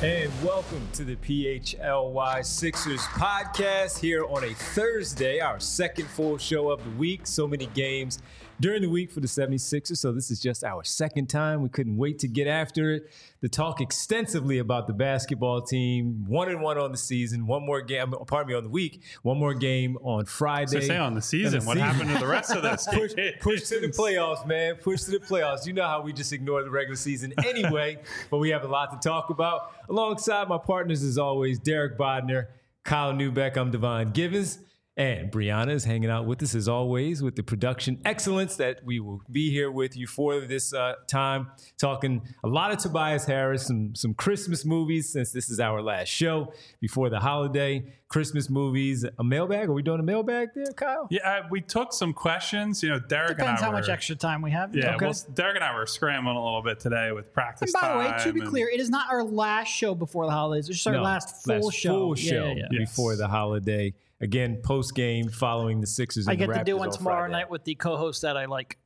And welcome to the PHLY Sixers podcast here on a Thursday, our second full show of the week. So many games during the week for the 76ers, so this is just our second time. We couldn't wait to get after it, to talk extensively about the basketball team. 1-1 on the season, one more game, on the week, one more game on Friday. So say on the season, what happened to the rest of this? Push to the playoffs, man. Push to the playoffs. You know how we just ignore the regular season anyway, but we have a lot to talk about. Alongside my partners, as always, Derek Bodner, Kyle Newbeck, I'm Devon Givens, and Brianna is hanging out with us, as always, with the production excellence that we will be here with you for this time, talking a lot of Tobias Harris, some Christmas movies, since this is our last show before the holiday. Christmas movies, a mailbag. Are we doing a mailbag there, Kyle? Yeah, we took some questions. You know, Derek Depends and I how much extra time we have. Yeah, Okay. Well, Derek and I were scrambling a little bit today with practice And by time. the way, to be clear, it is not our last show before the holidays. It's just our last full show. Yeah. Before the holiday. Again, post game following the Sixers. I and the get to do Raptors one on tomorrow Friday. night with the co-host that I like.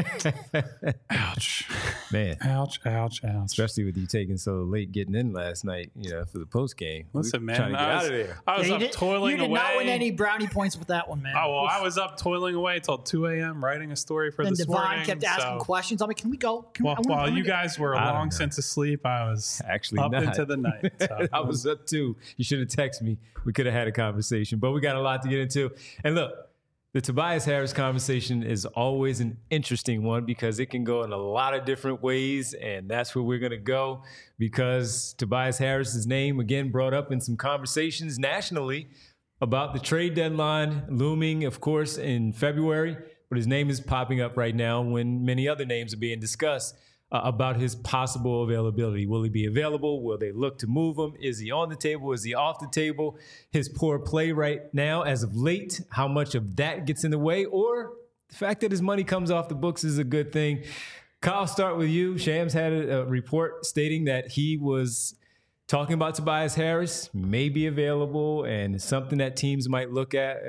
Ouch. Man. Ouch. Especially with you taking so late getting in last night, for the post game. Listen, man, trying to get out of there. I was Yeah, up toiling you did away. not win any brownie points with that one, man. Oh, well, I was up toiling away till 2 a.m. writing a story for and this Devon morning. kept asking questions. I'm like, can we go? While you guys were I don't long know. since asleep, I was Actually, up not. into the night. So. I was up too. You should have texted me. We could have had a conversation, but we got a lot to get into. And look, the Tobias Harris conversation is always an interesting one because it can go in a lot of different ways, and that's where we're going to go because Tobias Harris's name, again, brought up in some conversations nationally about the trade deadline looming, of course, in February, but his name is popping up right now when many other names are being discussed about his possible availability. Will he be available? Will they look to move him? Is he on the table? Is he off the table? His poor play right now, as of late, how much of that gets in the way? Or the fact that his money comes off the books is a good thing. Kyle, start with you. Shams had a report stating that he was talking about Tobias Harris, may be available, and it's something that teams might look at.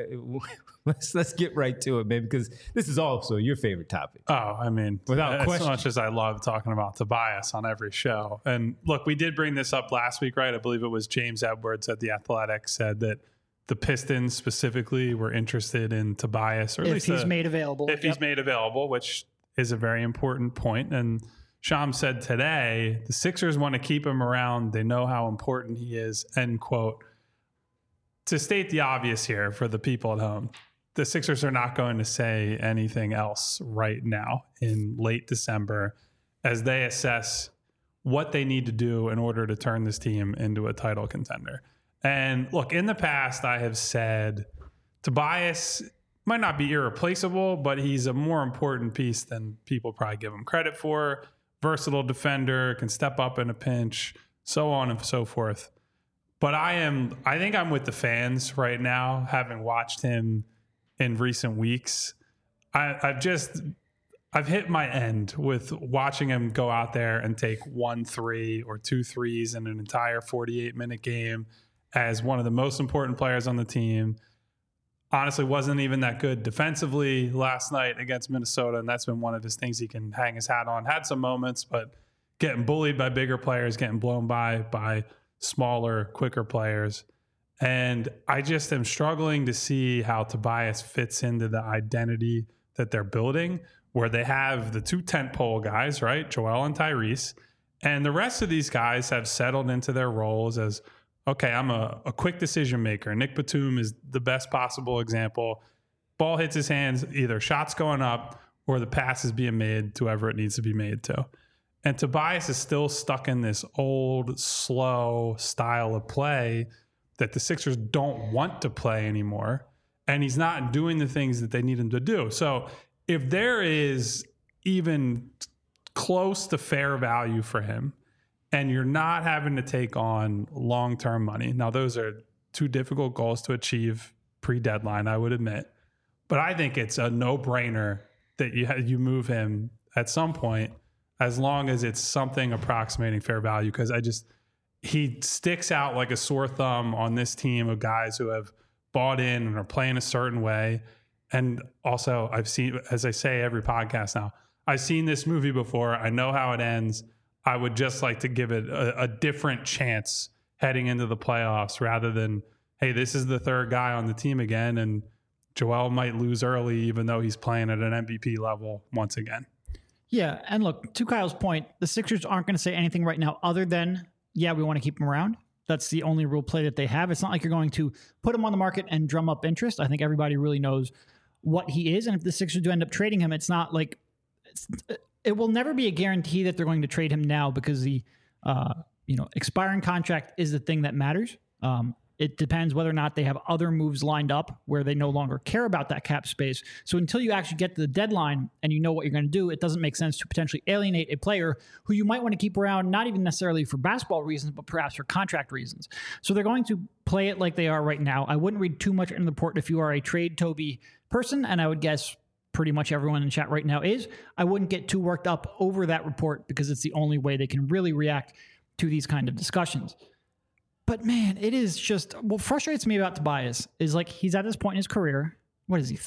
Let's get right to it, man, because this is also your favorite topic. Oh, I mean, Without as question. much as I love talking about Tobias on every show. And look, we did bring this up last week, right? I believe it was James Edwards at The Athletic said that the Pistons specifically were interested in Tobias, or at If least he's made available. if he's made available, which is a very important point. And Sham said today, the Sixers want to keep him around. They know how important he is, end quote. To state the obvious here for the people at home, the Sixers are not going to say anything else right now in late December as they assess what they need to do in order to turn this team into a title contender. And look, in the past, I have said Tobias might not be irreplaceable, but he's a more important piece than people probably give him credit for. Versatile defender, can step up in a pinch, so on and so forth. But I think I'm with the fans right now, having watched him in recent weeks. I've hit my end with watching him go out there and take 1 3 or 2 threes in an entire 48-minute game as one of the most important players on the team. Honestly, wasn't even that good defensively last night against Minnesota, and that's been one of his things he can hang his hat on. Had some moments, but getting bullied by bigger players, getting blown by smaller, quicker players. And I just am struggling to see how Tobias fits into the identity that they're building, where they have the two tentpole guys, right? Joel and Tyrese. And the rest of these guys have settled into their roles as, okay, I'm a quick decision maker. Nick Batum is the best possible example. Ball hits his hands, either shots going up or the pass is being made to whoever it needs to be made to. And Tobias is still stuck in this old, slow style of play that the Sixers don't want to play anymore. And he's not doing the things that they need him to do. So if there is even close to fair value for him, and you're not having to take on long-term money. Now, those are two difficult goals to achieve pre-deadline, I would admit. But I think it's a no-brainer that you move him at some point, as long as it's something approximating fair value, because he sticks out like a sore thumb on this team of guys who have bought in and are playing a certain way. And also, I've seen, as I say every podcast now, I've seen this movie before. I know how it ends. I would just like to give it a different chance heading into the playoffs rather than, hey, this is the third guy on the team again, and Joel might lose early even though he's playing at an MVP level once again. Yeah, and look, to Kyle's point, the Sixers aren't going to say anything right now other than, yeah, we want to keep him around. That's the only real play that they have. It's not like you're going to put him on the market and drum up interest. I think everybody really knows what he is. And if the Sixers do end up trading him, it's not like it will never be a guarantee that they're going to trade him now because the expiring contract is the thing that matters. It depends whether or not they have other moves lined up where they no longer care about that cap space. So until you actually get to the deadline and you know what you're going to do, it doesn't make sense to potentially alienate a player who you might want to keep around, not even necessarily for basketball reasons, but perhaps for contract reasons. So they're going to play it like they are right now. I wouldn't read too much into the report if you are a trade Toby person, and I would guess pretty much everyone in chat right now is. I wouldn't get too worked up over that report because it's the only way they can really react to these kind of discussions. But man, it is just, what frustrates me about Tobias is like he's at this point in his career. What is he,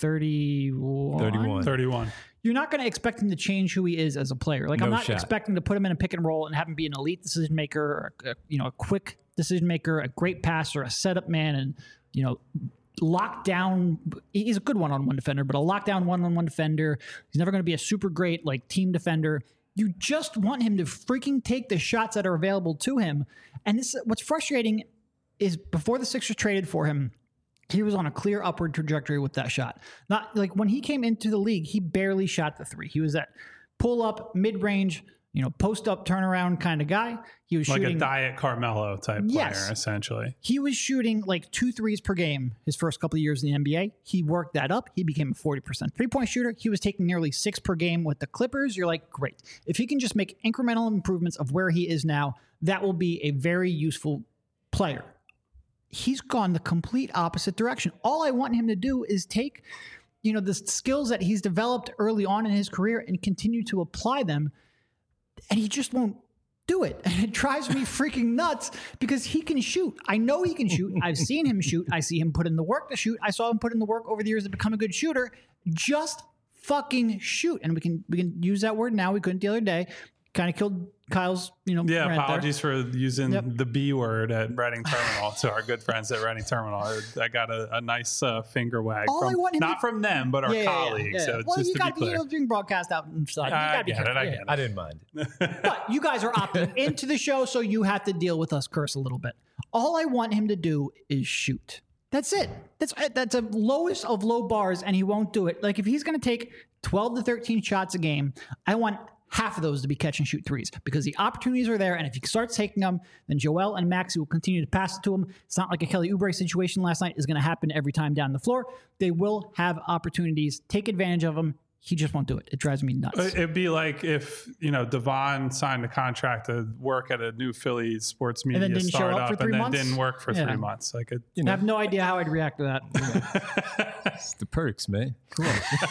31? 31. You're not going to expect him to change who he is as a player. Like, I'm not expecting to put him in a pick and roll and have him be an elite decision maker, or a quick decision maker, a great passer, a setup man, and, lock down. He's a good one-on-one defender, but a lockdown one-on-one defender. He's never going to be a super great team defender. You just want him to freaking take the shots that are available to him. And this, what's frustrating is before the Sixers traded for him, he was on a clear upward trajectory with that shot. Not like when he came into the league, he barely shot the three. He was that pull up, mid range, post up turnaround kind of guy. He was like shooting a diet Carmelo type player, essentially. He was shooting like 2 threes per game his first couple of years in the NBA. He worked that up. He became a 40% three-point shooter. He was taking nearly 6 per game with the Clippers. You're like, great. If he can just make incremental improvements of where he is now, that will be a very useful player. He's gone the complete opposite direction. All I want him to do is take, the skills that he's developed early on in his career and continue to apply them. And he just won't do it. And it drives me freaking nuts because he can shoot. I know he can shoot. I've seen him shoot. I see him put in the work to shoot. I saw him put in the work over the years to become a good shooter. Just fucking shoot. And we can use that word now. We couldn't the other day. Kind of killed Kyle's, apologies for using the B word at Reading Terminal to our good friends at Reading Terminal. I got a nice finger wag from them, but our colleagues. Yeah. So well, just you got to be being broadcast out inside. I get it. I didn't mind it. But you guys are opting into the show, so you have to deal with us curse a little bit. All I want him to do is shoot. That's it. That's a lowest of low bars, and he won't do it. Like, if he's going to take 12 to 13 shots a game, I want half of those to be catch and shoot threes because the opportunities are there. And if he starts taking them, then Joel and Maxey will continue to pass it to him. It's not like a Kelly Oubre situation last night is going to happen every time down the floor. They will have opportunities. Take advantage of them. He just won't do it. It drives me nuts. It'd be like if, Devon signed a contract to work at a new Philly sports media and then didn't startup show up for 3 months? Didn't work for 3 months. I have no idea how I'd react to that. It's the perks, man. Come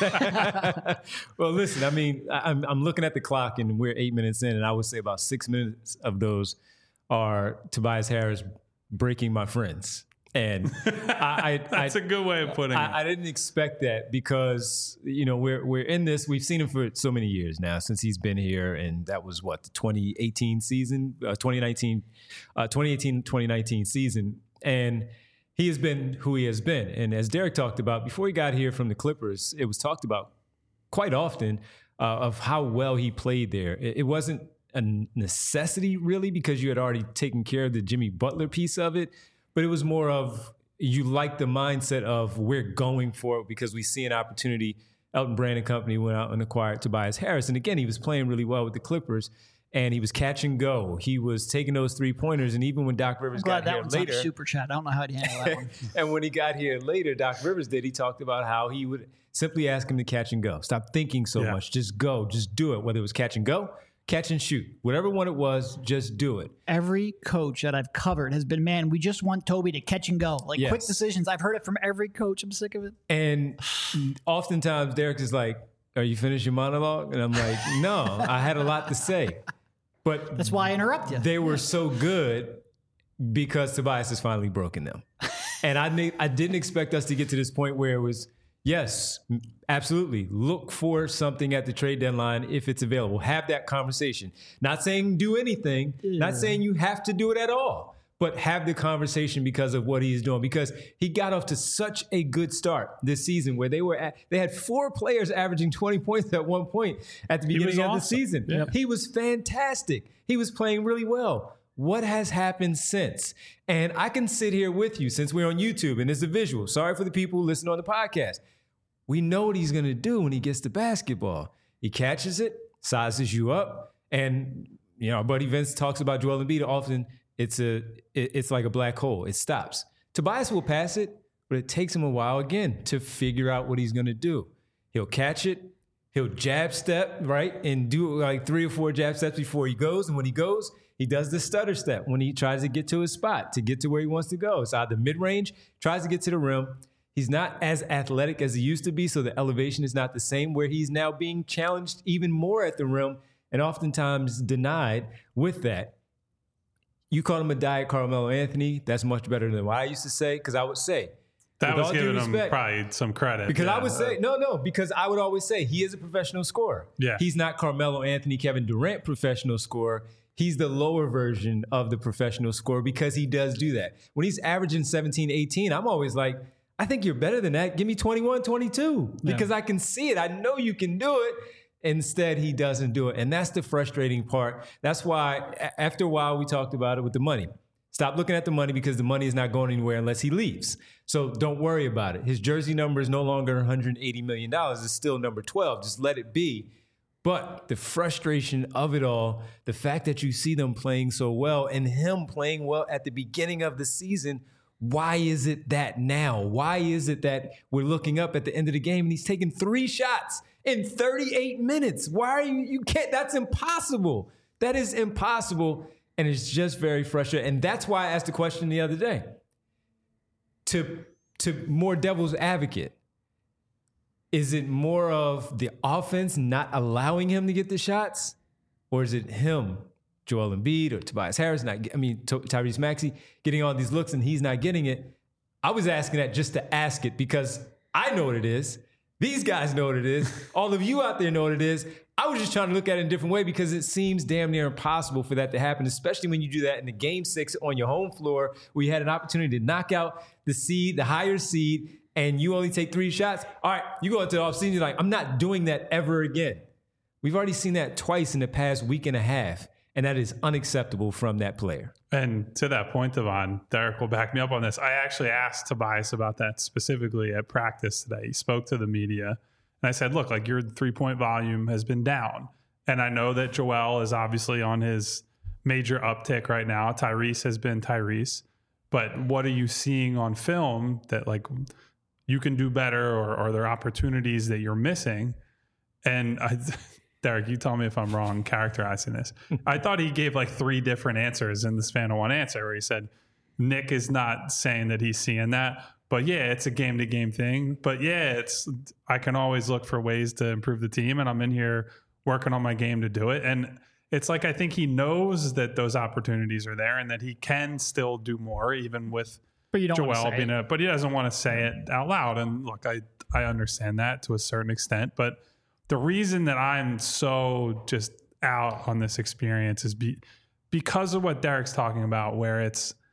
on. Well, listen, I'm looking at the clock and we're 8 minutes in, and I would say about 6 minutes of those are Tobias Harris breaking my friends. And that's a good way of putting it. I didn't expect that because, we're in this. We've seen him for so many years now since he's been here. And that was the 2018 season, 2018-2019 season. And he has been who he has been. And as Derek talked about, before he got here from the Clippers, it was talked about quite often of how well he played there. It wasn't a necessity really because you had already taken care of the Jimmy Butler piece of it. But it was more of you like the mindset of we're going for it because we see an opportunity. Elton Brand and company went out and acquired Tobias Harris. And again, he was playing really well with the Clippers and he was catch and go. He was taking those 3-pointers. And even when Doc Rivers got here later. Super chat. I don't know how to handle that one. And when he got here later, Doc Rivers he talked about how he would simply ask him to catch and go. Stop thinking so much. Just go. Just do it. Whether it was catch and go, catch and shoot. Whatever one it was, just do it. Every coach that I've covered has been, man, we just want Toby to catch and go. Quick decisions. I've heard it from every coach. I'm sick of it. And oftentimes Derek is like, are you finished your monologue? And I'm like, no, I had a lot to say. But that's why I interrupt you. They were so good because Tobias has finally broken them. And I didn't expect us to get to this point where it was, Yes, absolutely. Look for something at the trade deadline if it's available. Have that conversation. Not saying do anything, not saying you have to do it at all, but have the conversation because of what he's doing. Because he got off to such a good start this season where they had 4 players averaging 20 points at one point at the beginning of the season. Yeah. He was fantastic. He was playing really well. What has happened since? And I can sit here with you since we're on YouTube and it's a visual. Sorry for the people who listen on the podcast. We know what he's going to do when he gets the basketball. He catches it, sizes you up, and our buddy Vince talks about Joel Embiid often. It's like a black hole. It stops. Tobias will pass it, but it takes him a while again to figure out what he's going to do. He'll catch it. He'll jab step, right, and do like 3 or 4 jab steps before he goes. And when he goes, he does the stutter step when he tries to get to his spot, to get to where he wants to go. It's either mid-range, tries to get to the rim. He's not as athletic as he used to be, so the elevation is not the same, where he's now being challenged even more at the rim and oftentimes denied with that. You called him a diet Carmelo Anthony. That's much better than what I used to say, because I would say, that was giving him probably some credit. Because I would say, because I would always say he is a professional scorer. Yeah. He's not Carmelo Anthony, Kevin Durant professional scorer. He's the lower version of the professional scorer because he does do that. When he's averaging 17, 18, I'm always like, I think you're better than that. Give me 21, 22 because I can see it. I know you can do it. Instead, he doesn't do it. And that's the frustrating part. That's why after a while, we talked about it with the money. Stop looking at the money because the money is not going anywhere unless he leaves. So don't worry about it. His jersey number is no longer $180 million. It's still number 12. Just let it be. But the frustration of it all, the fact that you see them playing so well and him playing well at the beginning of the season, why is it that now? Why is it that we're looking up at the end of the game and he's taking 3 shots in 38 minutes? Why are you can't, that's impossible. That is impossible. And it's just very frustrating. And that's why I asked the question the other day. To more devil's advocate, is it more of the offense not allowing him to get the shots? Or is it him, Joel Embiid or Tobias Harris, Tyrese Maxey, getting all these looks and he's not getting it? I was asking that just to ask it because I know what it is. These guys know what it is. All of you out there know what it is. I was just trying to look at it in a different way because it seems damn near impossible for that to happen, especially when you do that in the game 6 on your home floor where you had an opportunity to knock out the higher seed, and you only take 3 shots. All right, you go into the offseason, you're like, I'm not doing that ever again. We've already seen that twice in the past week and a half, and that is unacceptable from that player. And to that point, Devon, Derek will back me up on this. I actually asked Tobias about that specifically at practice today. He spoke to the media, and I said, look, like your 3-point volume has been down. And I know that Joel is obviously on his major uptick right now. Tyrese has been Tyrese. But what are you seeing on film that like you can do better, or are there opportunities that you're missing? And Derek, you tell me if I'm wrong characterizing this. I thought he gave like 3 different answers in the span of one answer where he said, Nick is not saying that he's seeing that, but yeah, it's a game to game thing. But yeah, I can always look for ways to improve the team, and I'm in here working on my game to do it. And it's like, I think he knows that those opportunities are there and that he can still do more, even with Joel being but he doesn't want to say it out loud. And look, I understand that to a certain extent, but the reason that I'm so just out on this experience is because of what Derek's talking about, where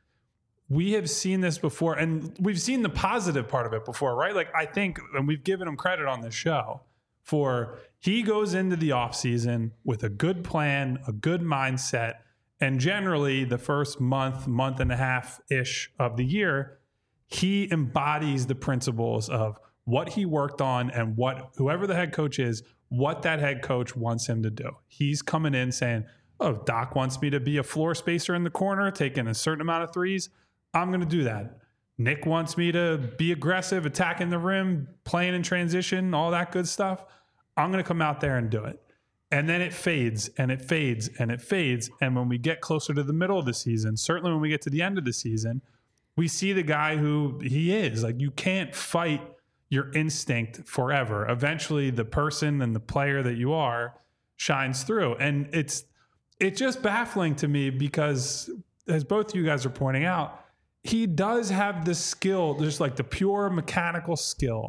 we have seen this before, and we've seen the positive part of it before, right? Like I think, and we've given him credit on this show for he goes into the offseason with a good plan, a good mindset, and generally the first month and a half-ish of the year, he embodies the principles of what he worked on and what whoever the head coach is, what that head coach wants him to do. He's coming in saying, oh, Doc wants me to be a floor spacer in the corner, taking a certain amount of threes. I'm going to do that. Nick wants me to be aggressive, attacking the rim, playing in transition, all that good stuff. I'm going to come out there and do it. And then it fades and it fades and it fades. And when we get closer to the middle of the season, certainly when we get to the end of the season, we see the guy who he is. Like you can't fight your instinct forever. Eventually the person and the player that you are shines through. And it's just baffling to me because, as both you guys are pointing out, he does have the skill, just like the pure mechanical skill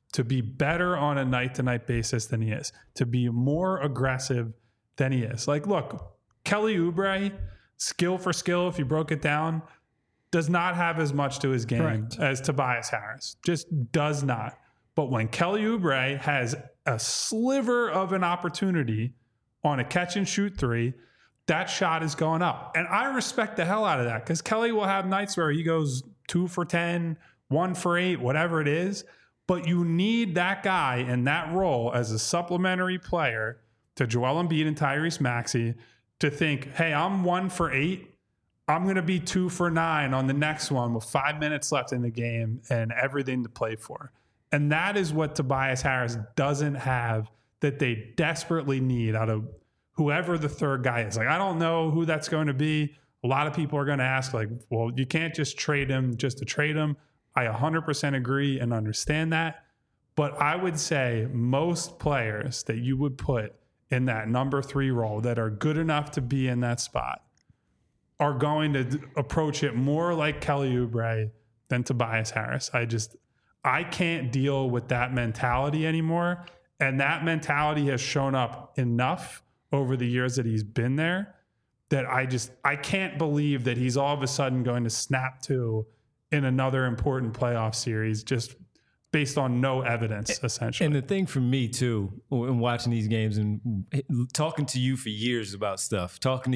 to be better on a night-to-night basis than he is, to be more aggressive than he is. Like, look, Kelly Oubre, skill for skill, if you broke it down, does not have as much to his game as Tobias Harris. Just does not. But when Kelly Oubre has a sliver of an opportunity on a catch and shoot three, that shot is going up. And I respect the hell out of that, because Kelly will have nights where he goes 2 for 10, 1 for 8, whatever it is. But you need that guy in that role as a supplementary player to Joel Embiid and Tyrese Maxey to think, hey, I'm 1 for 8. I'm going to be 2 for 9 on the next one with 5 minutes left in the game and everything to play for. And that is what Tobias Harris doesn't have, that they desperately need out of whoever the third guy is. Like, I don't know who that's going to be. A lot of people are going to ask, like, well, you can't just trade him just to trade him. I 100% agree and understand that. But I would say most players that you would put in that number 3 role that are good enough to be in that spot are going to approach it more like Kelly Oubre than Tobias Harris. I can't deal with that mentality anymore. And that mentality has shown up enough over the years that he's been there that I can't believe that he's all of a sudden going to snap to in another important playoff series just based on no evidence, essentially. And the thing for me, too, in watching these games and talking to you for years about stuff,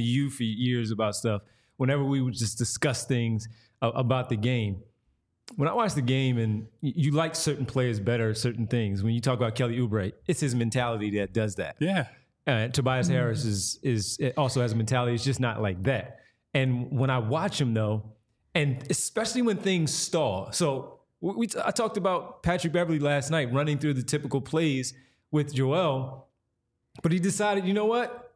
whenever we would just discuss things about the game, when I watch the game and you like certain players better at certain things, when you talk about Kelly Oubre, it's his mentality that does that. Yeah. Tobias Harris is also has a mentality. It's just not like that. And when I watch him, though, and especially when things stall. So I talked about Patrick Beverley last night running through the typical plays with Joel, but he decided, you know what?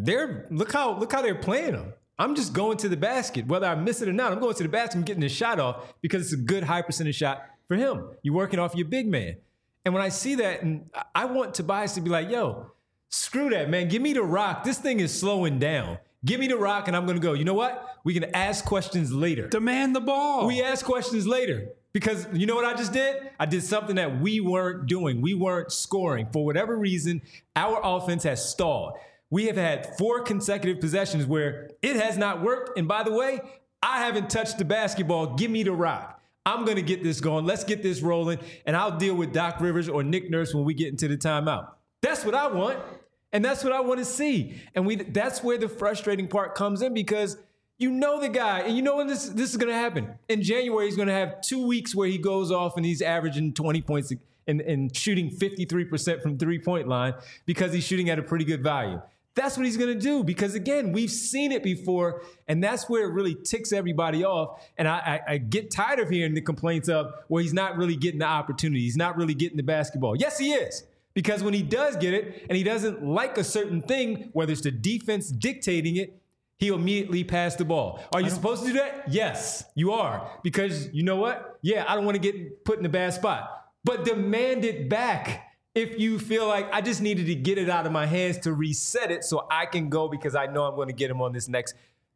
Look how they're playing him. I'm just going to the basket. Whether I miss it or not, I'm going to the basket and getting the shot off because it's a good high percentage shot for him. You're working off your big man. And when I see that, and I want Tobias to be like, yo, screw that, man. Give me the rock. This thing is slowing down. Give me the rock and I'm going to go. You know what? We can ask questions later. Demand the ball. We ask questions later because you know what I just did? I did something that we weren't doing. We weren't scoring. For whatever reason, our offense has stalled. We have had 4 consecutive possessions where it has not worked. And by the way, I haven't touched the basketball. Give me the rock. I'm going to get this going. Let's get this rolling. And I'll deal with Doc Rivers or Nick Nurse when we get into the timeout. That's what I want. And that's what I want to see. And that's where the frustrating part comes in because you know the guy, and you know when this is going to happen. In January, he's going to have 2 weeks where he goes off and he's averaging 20 points and shooting 53% from three-point line because he's shooting at a pretty good value. That's what he's going to do because, again, we've seen it before, and that's where it really ticks everybody off. And I get tired of hearing the complaints of, well, he's not really getting the opportunity. He's not really getting the basketball. Yes, he is. Because when he does get it and he doesn't like a certain thing, whether it's the defense dictating it, he'll immediately pass the ball. Are you supposed to do that? Yes, you are. Because you know what? Yeah, I don't want to get put in a bad spot. But demand it back if you feel like I just needed to get it out of my hands to reset it so I can go because I know I'm going to get him on this next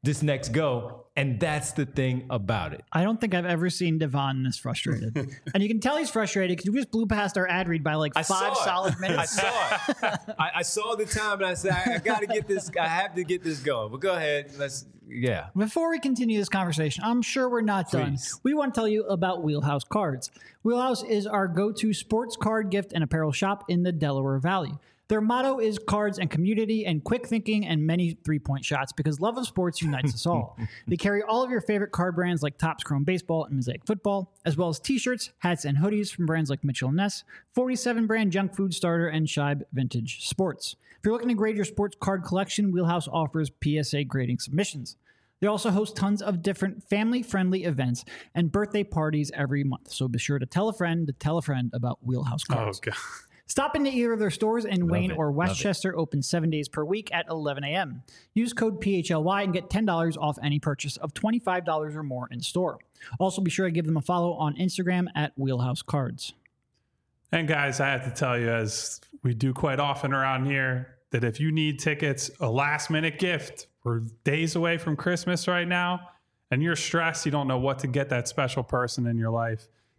go. And that's the thing about it. I don't think I've ever seen Devon this frustrated. And you can tell he's frustrated because we just blew past our ad read by like 5 solid minutes. I saw it. I saw the time and I said, I got to get this. I have to get this going. But go ahead. Yeah. Before we continue this conversation, I'm sure we're not done. We want to tell you about Wheelhouse Cards. Wheelhouse is our go-to sports card gift and apparel shop in the Delaware Valley. Their motto is cards and community and quick thinking and many three-point shots because love of sports unites us all. They carry all of your favorite card brands like Topps Chrome Baseball and Mosaic Football, as well as t-shirts, hats, and hoodies from brands like Mitchell & Ness, 47 brand Junk Food Starter, and Scheib Vintage Sports. If you're looking to grade your sports card collection, Wheelhouse offers PSA grading submissions. They also host tons of different family-friendly events and birthday parties every month. So be sure to tell a friend about Wheelhouse Cards. Oh, God. Stop into either of their stores in Wayne or Westchester, open 7 days per week at 11 a.m. Use code PHLY and get $10 off any purchase of $25 or more in store. Also, be sure to give them a follow on Instagram at Wheelhouse Cards. And guys, I have to tell you, as we do quite often around here, that if you need tickets, a last-minute gift, we're days away from Christmas right now, and you're stressed, you don't know what to get that special person in your life,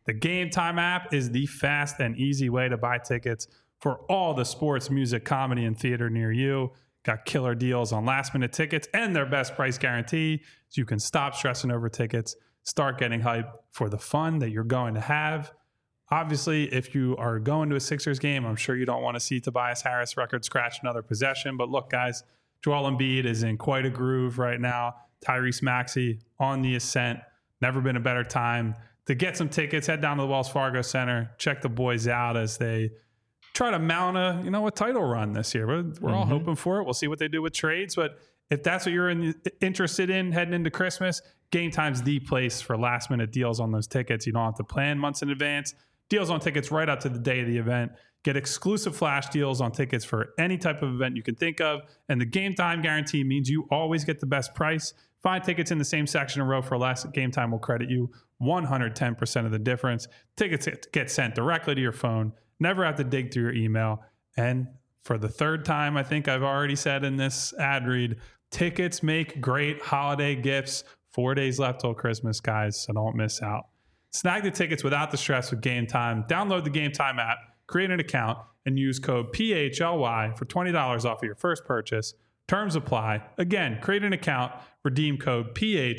The Game Time app is the fast and easy way to buy tickets for all the sports, music, comedy, and theater near you. Got killer deals on last-minute tickets and their best price guarantee, so you can stop stressing over tickets, start getting hyped for the fun that you're going to have. Obviously, if you are going to a Sixers game, I'm sure you don't want to see Tobias Harris record scratch another possession. But look, guys, Joel Embiid is in quite a groove right now. Tyrese Maxey on the ascent. Never been a better time to get some tickets. Head down to the Wells Fargo Center. Check the boys out as they try to mount a title run this year. We're all hoping for it. We'll see what they do with trades. But if that's what you're interested in heading into Christmas, Game Time's the place for last-minute deals on those tickets. You don't have to plan months in advance. Deals on tickets right up to the day of the event. Get exclusive flash deals on tickets for any type of event you can think of. And the Game Time guarantee means you always get the best price. Find tickets in the same section or row for less. Game Time will credit you 110% of the difference. Tickets get sent directly to your phone. Never have to dig through your email. And for the third time, I think I've already said in this ad read, tickets make great holiday gifts. 4 days left till Christmas, guys, so don't miss out. Snag the tickets without the stress with Game Time. Download the Game Time app, create an account, and use code PHLY for $20 off of your first purchase. Terms apply. Again, create an account, redeem code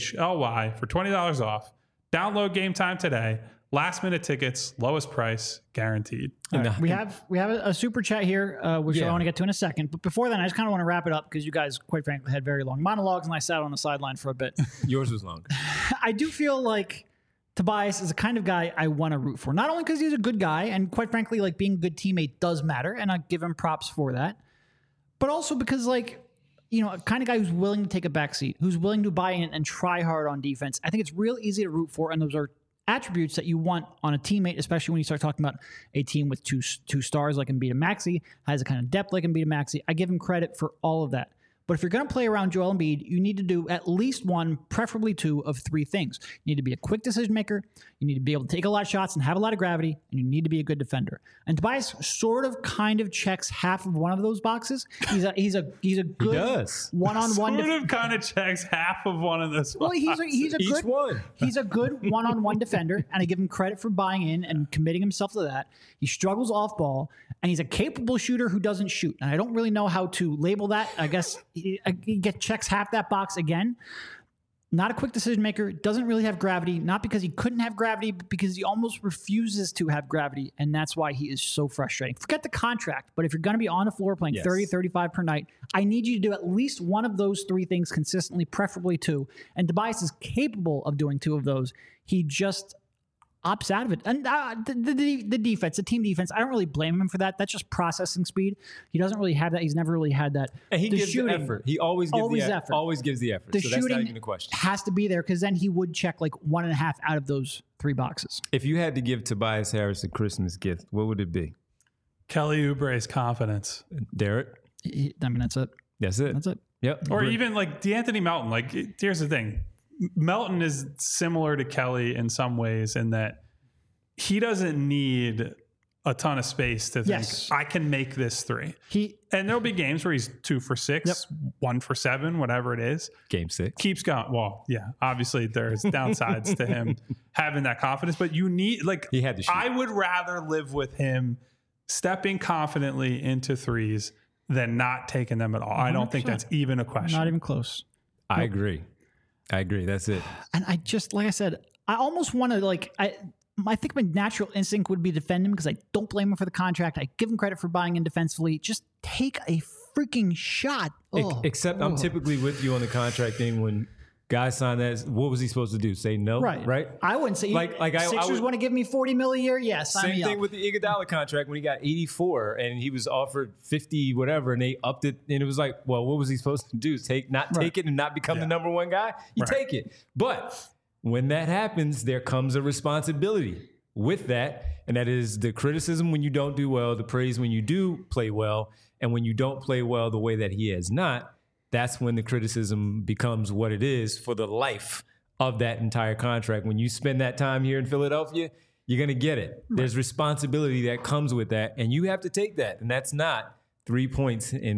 PHLY for $20 off. Download Game Time today. Last minute tickets, lowest price, guaranteed. Right. We have a super chat here, which I want to get to in a second. But before then, I just kind of want to wrap it up because you guys, quite frankly, had very long monologues, and I sat on the sideline for a bit. Yours was longer. I do feel like Tobias is the kind of guy I want to root for. Not only because he's a good guy, and quite frankly, like being a good teammate does matter, and I give him props for that. But also because, like, you know, a kind of guy who's willing to take a backseat, who's willing to buy in and try hard on defense. I think it's real easy to root for, and those are attributes that you want on a teammate, especially when you start talking about a team with two stars like Embiid and Maxey, has a kind of depth like Embiid and Maxey. I give him credit for all of that. But if you're going to play around Joel Embiid, you need to do at least one, preferably two, of three things. You need to be a quick decision maker, you need to be able to take a lot of shots and have a lot of gravity, and you need to be a good defender. And Tobias sort of kind of checks half of one of those boxes. He's a good one-on-one. Sort of kind of checks half of one of those. Well, he's a good one-on-one defender, and I give him credit for buying in and committing himself to that. He struggles off ball, and he's a capable shooter who doesn't shoot. And I don't really know how to label that. I guess he checks half that box again. Not a quick decision maker, doesn't really have gravity, not because he couldn't have gravity, but because he almost refuses to have gravity, and that's why he is so frustrating. Forget the contract, but if you're going to be on the floor playing 30, 35 per night, I need you to do at least one of those three things consistently, preferably two, and Tobias is capable of doing two of those. He just opts out of it. And the defense, the team defense, I don't really blame him for that. That's just processing speed. He doesn't really have that. He's never really had that. And he gives the effort. He always gives the effort. Always gives the effort. The so shooting that's not even a question. Has to be there because then he would check like 1.5 out of those three boxes. If you had to give Tobias Harris a Christmas gift, what would it be? Kelly Oubre's confidence. Derek? That's it. That's it. That's it. Yep. Or even like DeAnthony Melton. Like, here's the thing. Melton is similar to Kelly in some ways in that he doesn't need a ton of space to think, I can make this three. And there'll be games where he's 2 for 6, 1 for 7, whatever it is. Game 6. Keeps going. Well, yeah, obviously there's downsides to him having that confidence, but you need, like, he had to shoot. I would rather live with him stepping confidently into threes than not taking them at all. 100%. I don't think that's even a question. Not even close. I agree. That's it. And I just, like I said, I almost want to, like, I think my natural instinct would be to defend him because I don't blame him for the contract. I give him credit for buying in defensively. Just take a freaking shot. Except I'm typically with you on the contract thing when guys sign that. What was he supposed to do? Say no? Right? I wouldn't say Sixers want to give me $40 million a year. Yes, same thing with the Iguodala contract when he got 84 and he was offered 50 whatever and they upped it and it was like, well, what was he supposed to do? Take it and not become the number one guy? You take it. But when that happens, there comes a responsibility with that, and that is the criticism when you don't do well, the praise when you do play well, and when you don't play well the way that he has not, that's when the criticism becomes what it is for the life of that entire contract. When you spend that time here in Philadelphia, you're going to get it. Right. There's responsibility that comes with that, and you have to take that, and that's not 3 points in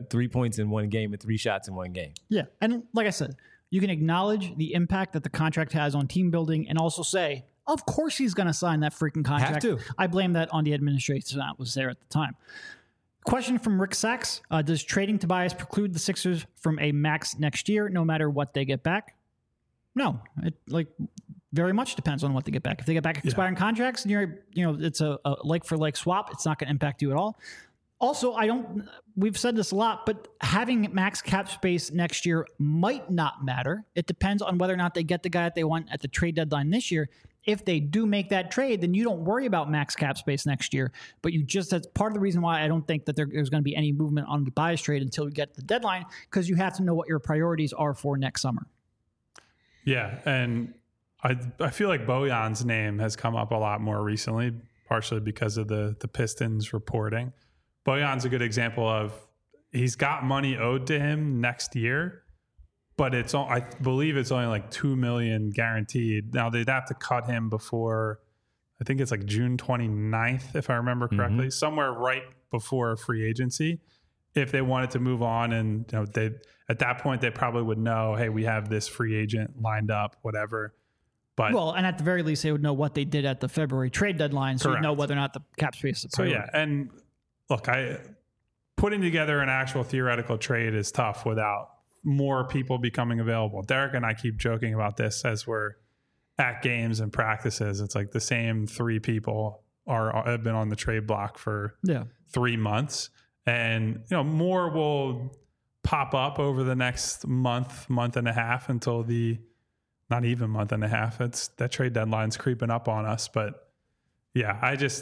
one game and 3 shots in one game. Yeah, and like I said, you can acknowledge the impact that the contract has on team building and also say, Of course he's going to sign that freaking contract. Have to. I blame that on the administration that was there at the time. Question from Rick Sachs. Does trading Tobias preclude the Sixers from a max next year, no matter what they get back? No. It very much depends on what they get back. If they get back expiring contracts, and it's a like-for-like swap, it's not going to impact you at all. Also, we've said this a lot, but having max cap space next year might not matter. It depends on whether or not they get the guy that they want at the trade deadline this year. If they do make that trade, then you don't worry about max cap space next year. But that's part of the reason why I don't think that there's going to be any movement on the Tobias trade until we get to the deadline, because you have to know what your priorities are for next summer. Yeah, and I feel like Bojan's name has come up a lot more recently, partially because of the Pistons reporting. Bojan's a good example of he's got money owed to him next year, but I believe it's only like $2 million guaranteed. Now they'd have to cut him before, I think it's like June 29th, if I remember correctly, somewhere right before free agency, if they wanted to move on. And at that point they probably would know, hey, we have this free agent lined up, whatever. But and at the very least, they would know what they did at the February trade deadline, so you know whether or not the cap space is a priority. So yeah, and look, putting together an actual theoretical trade is tough without more people becoming available. Derek and I keep joking about this as we're at games and practices. It's like the same 3 people have been on the trade block for 3 months, and more will pop up over the next month and a half until not even month and a half. That trade deadline's creeping up on us. But yeah,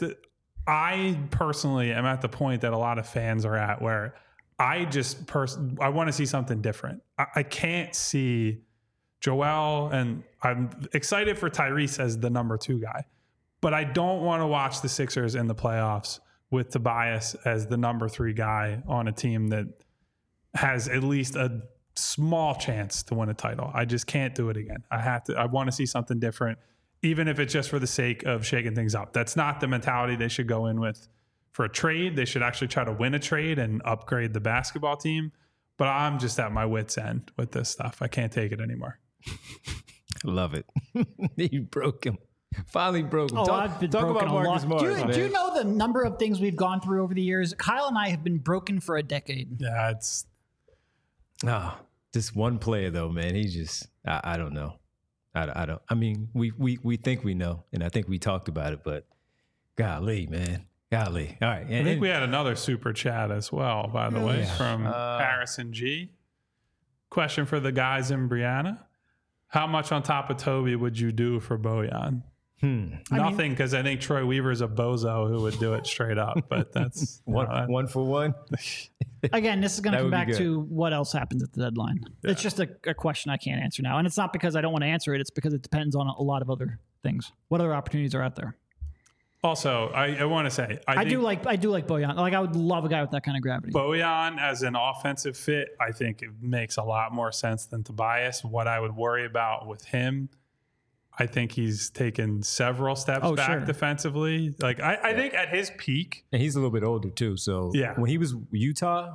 I personally am at the point that a lot of fans are at where I want to see something different. I can't see Joel, and I'm excited for Tyrese as the number 2 guy, but I don't want to watch the Sixers in the playoffs with Tobias as the number 3 guy on a team that has at least a small chance to win a title. I just can't do it again. I want to see something different, even if it's just for the sake of shaking things up. That's not the mentality they should go in with for a trade. They should actually try to win a trade and upgrade the basketball team. But I'm just at my wit's end with this stuff. I can't take it anymore. I love it. You broke him. Finally broke him. I've been talk broken about Marcus Morris. Do you know the number of things we've gone through over the years? Kyle and I have been broken for a decade. Yeah, it's... just one player though, man. He just, I don't know. I don't. I mean, we think we know, and I think we talked about it, but golly, man, golly. All right. I think we had another super chat as well, by the way, from Harrison G. Question for the guys in Brianna: how much on top of Toby would you do for Bojan? Nothing, because I think Troy Weaver's a bozo who would do it straight up. But that's one for one. Again, this is going to come back to what else happens at the deadline. Yeah. It's just a question I can't answer now, and it's not because I don't want to answer it. It's because it depends on a lot of other things. What other opportunities are out there? Also, I want to say I do like Bojan. Like, I would love a guy with that kind of gravity. Bojan as an offensive fit, I think it makes a lot more sense than Tobias. What I would worry about with him, I think he's taken several steps back defensively. Like I think at his peak, and he's a little bit older too. So when he was Utah,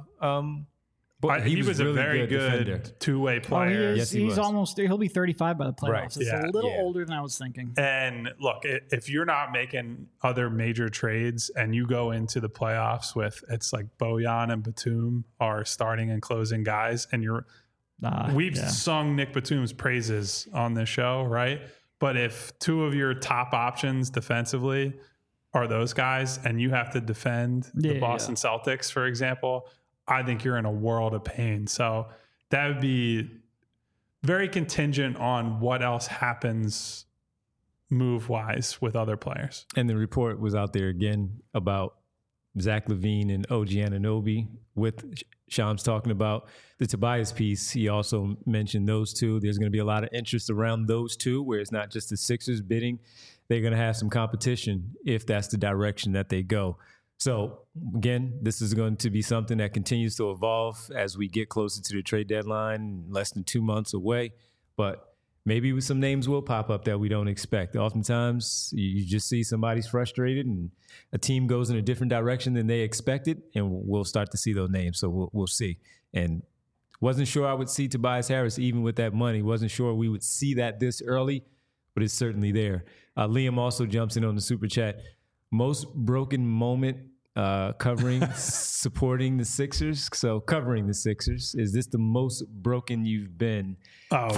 he was a very good two-way player. He'll be 35 by the playoffs. Right. It's a little older than I was thinking. And look, if you're not making other major trades and you go into the playoffs with, it's like Bojan and Batum are starting and closing guys, and we've sung Nick Batum's praises on this show, right? But if 2 of your top options defensively are those guys and you have to defend the Boston Celtics, for example, I think you're in a world of pain. So that would be very contingent on what else happens move-wise with other players. And the report was out there again about Zach LaVine and OG Anunoby with Shams talking about the Tobias piece. He also mentioned those 2. There's going to be a lot of interest around those 2, where it's not just the Sixers bidding. They're going to have some competition if that's the direction that they go. So again, this is going to be something that continues to evolve as we get closer to the trade deadline, less than 2 months away. But maybe some names will pop up that we don't expect. Oftentimes, you just see somebody's frustrated and a team goes in a different direction than they expected, and we'll start to see those names. So we'll see. And wasn't sure I would see Tobias Harris even with that money. Wasn't sure we would see that this early. but it's certainly there. Liam also jumps in on the super chat. Most broken moment supporting the Sixers. So covering the Sixers. Is this the most broken you've been? No.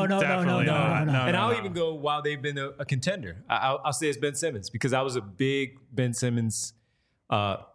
And I'll even go while they've been a contender. I'll say it's Ben Simmons because I was a big Ben Simmons. I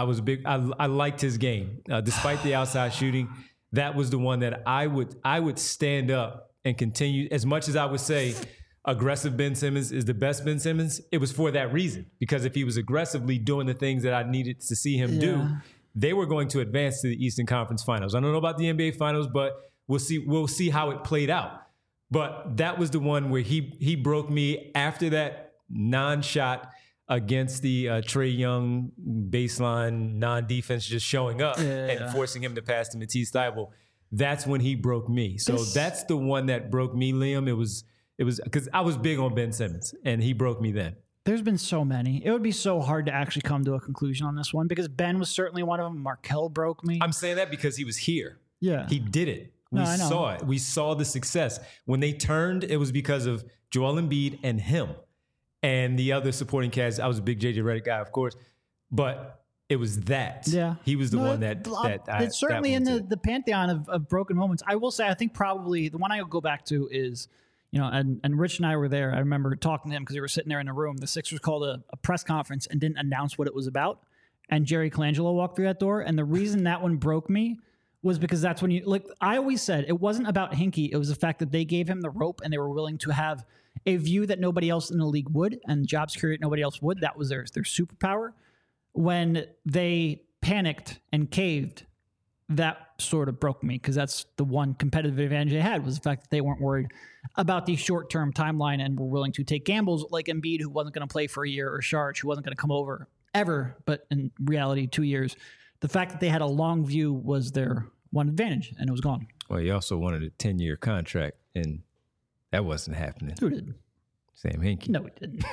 liked his game. Despite the outside shooting, that was the one that I would stand up and continue. As much as I would say aggressive Ben Simmons is the best Ben Simmons, it was for that reason. Because if he was aggressively doing the things that I needed to see him do, they were going to advance to the Eastern Conference Finals. I don't know about the NBA Finals, but we'll see how it played out. But that was the one where he broke me after that non-shot against the Trae Young baseline non-defense just showing up and forcing him to pass to Matisse Thybulle. That's when he broke me. So that's the one that broke me, Liam. It was because I was big on Ben Simmons, and he broke me then. There's been so many. It would be so hard to actually come to a conclusion on this one because Ben was certainly one of them. Markelle broke me. I'm saying that because he was here. Yeah. He did it. We saw it. We saw the success. When they turned, it was because of Joel Embiid and him. And the other supporting cast, I was a big JJ Redick guy, of course, but it was that. Yeah. He was the one that it's certainly in the pantheon of broken moments. I will say, I think probably the one I go back to is, and Rich and I were there. I remember talking to him because we were sitting there in a room. The Sixers called a press conference and didn't announce what it was about. And Jerry Colangelo walked through that door. And the reason that one broke me was because that's when I always said it wasn't about Hinkie. It was the fact that they gave him the rope and they were willing to have a view that nobody else in the league would and job security nobody else would. That was their superpower. When they panicked and caved, that sort of broke me because that's the one competitive advantage they had was the fact that they weren't worried about the short-term timeline and were willing to take gambles like Embiid, who wasn't going to play for a year, or Saric, who wasn't going to come over ever, but in reality, 2 years. The fact that they had a long view was their one advantage, and it was gone. Well, he also wanted a 10-year contract, and that wasn't happening. Who did? Sam Hinkie. No, it didn't.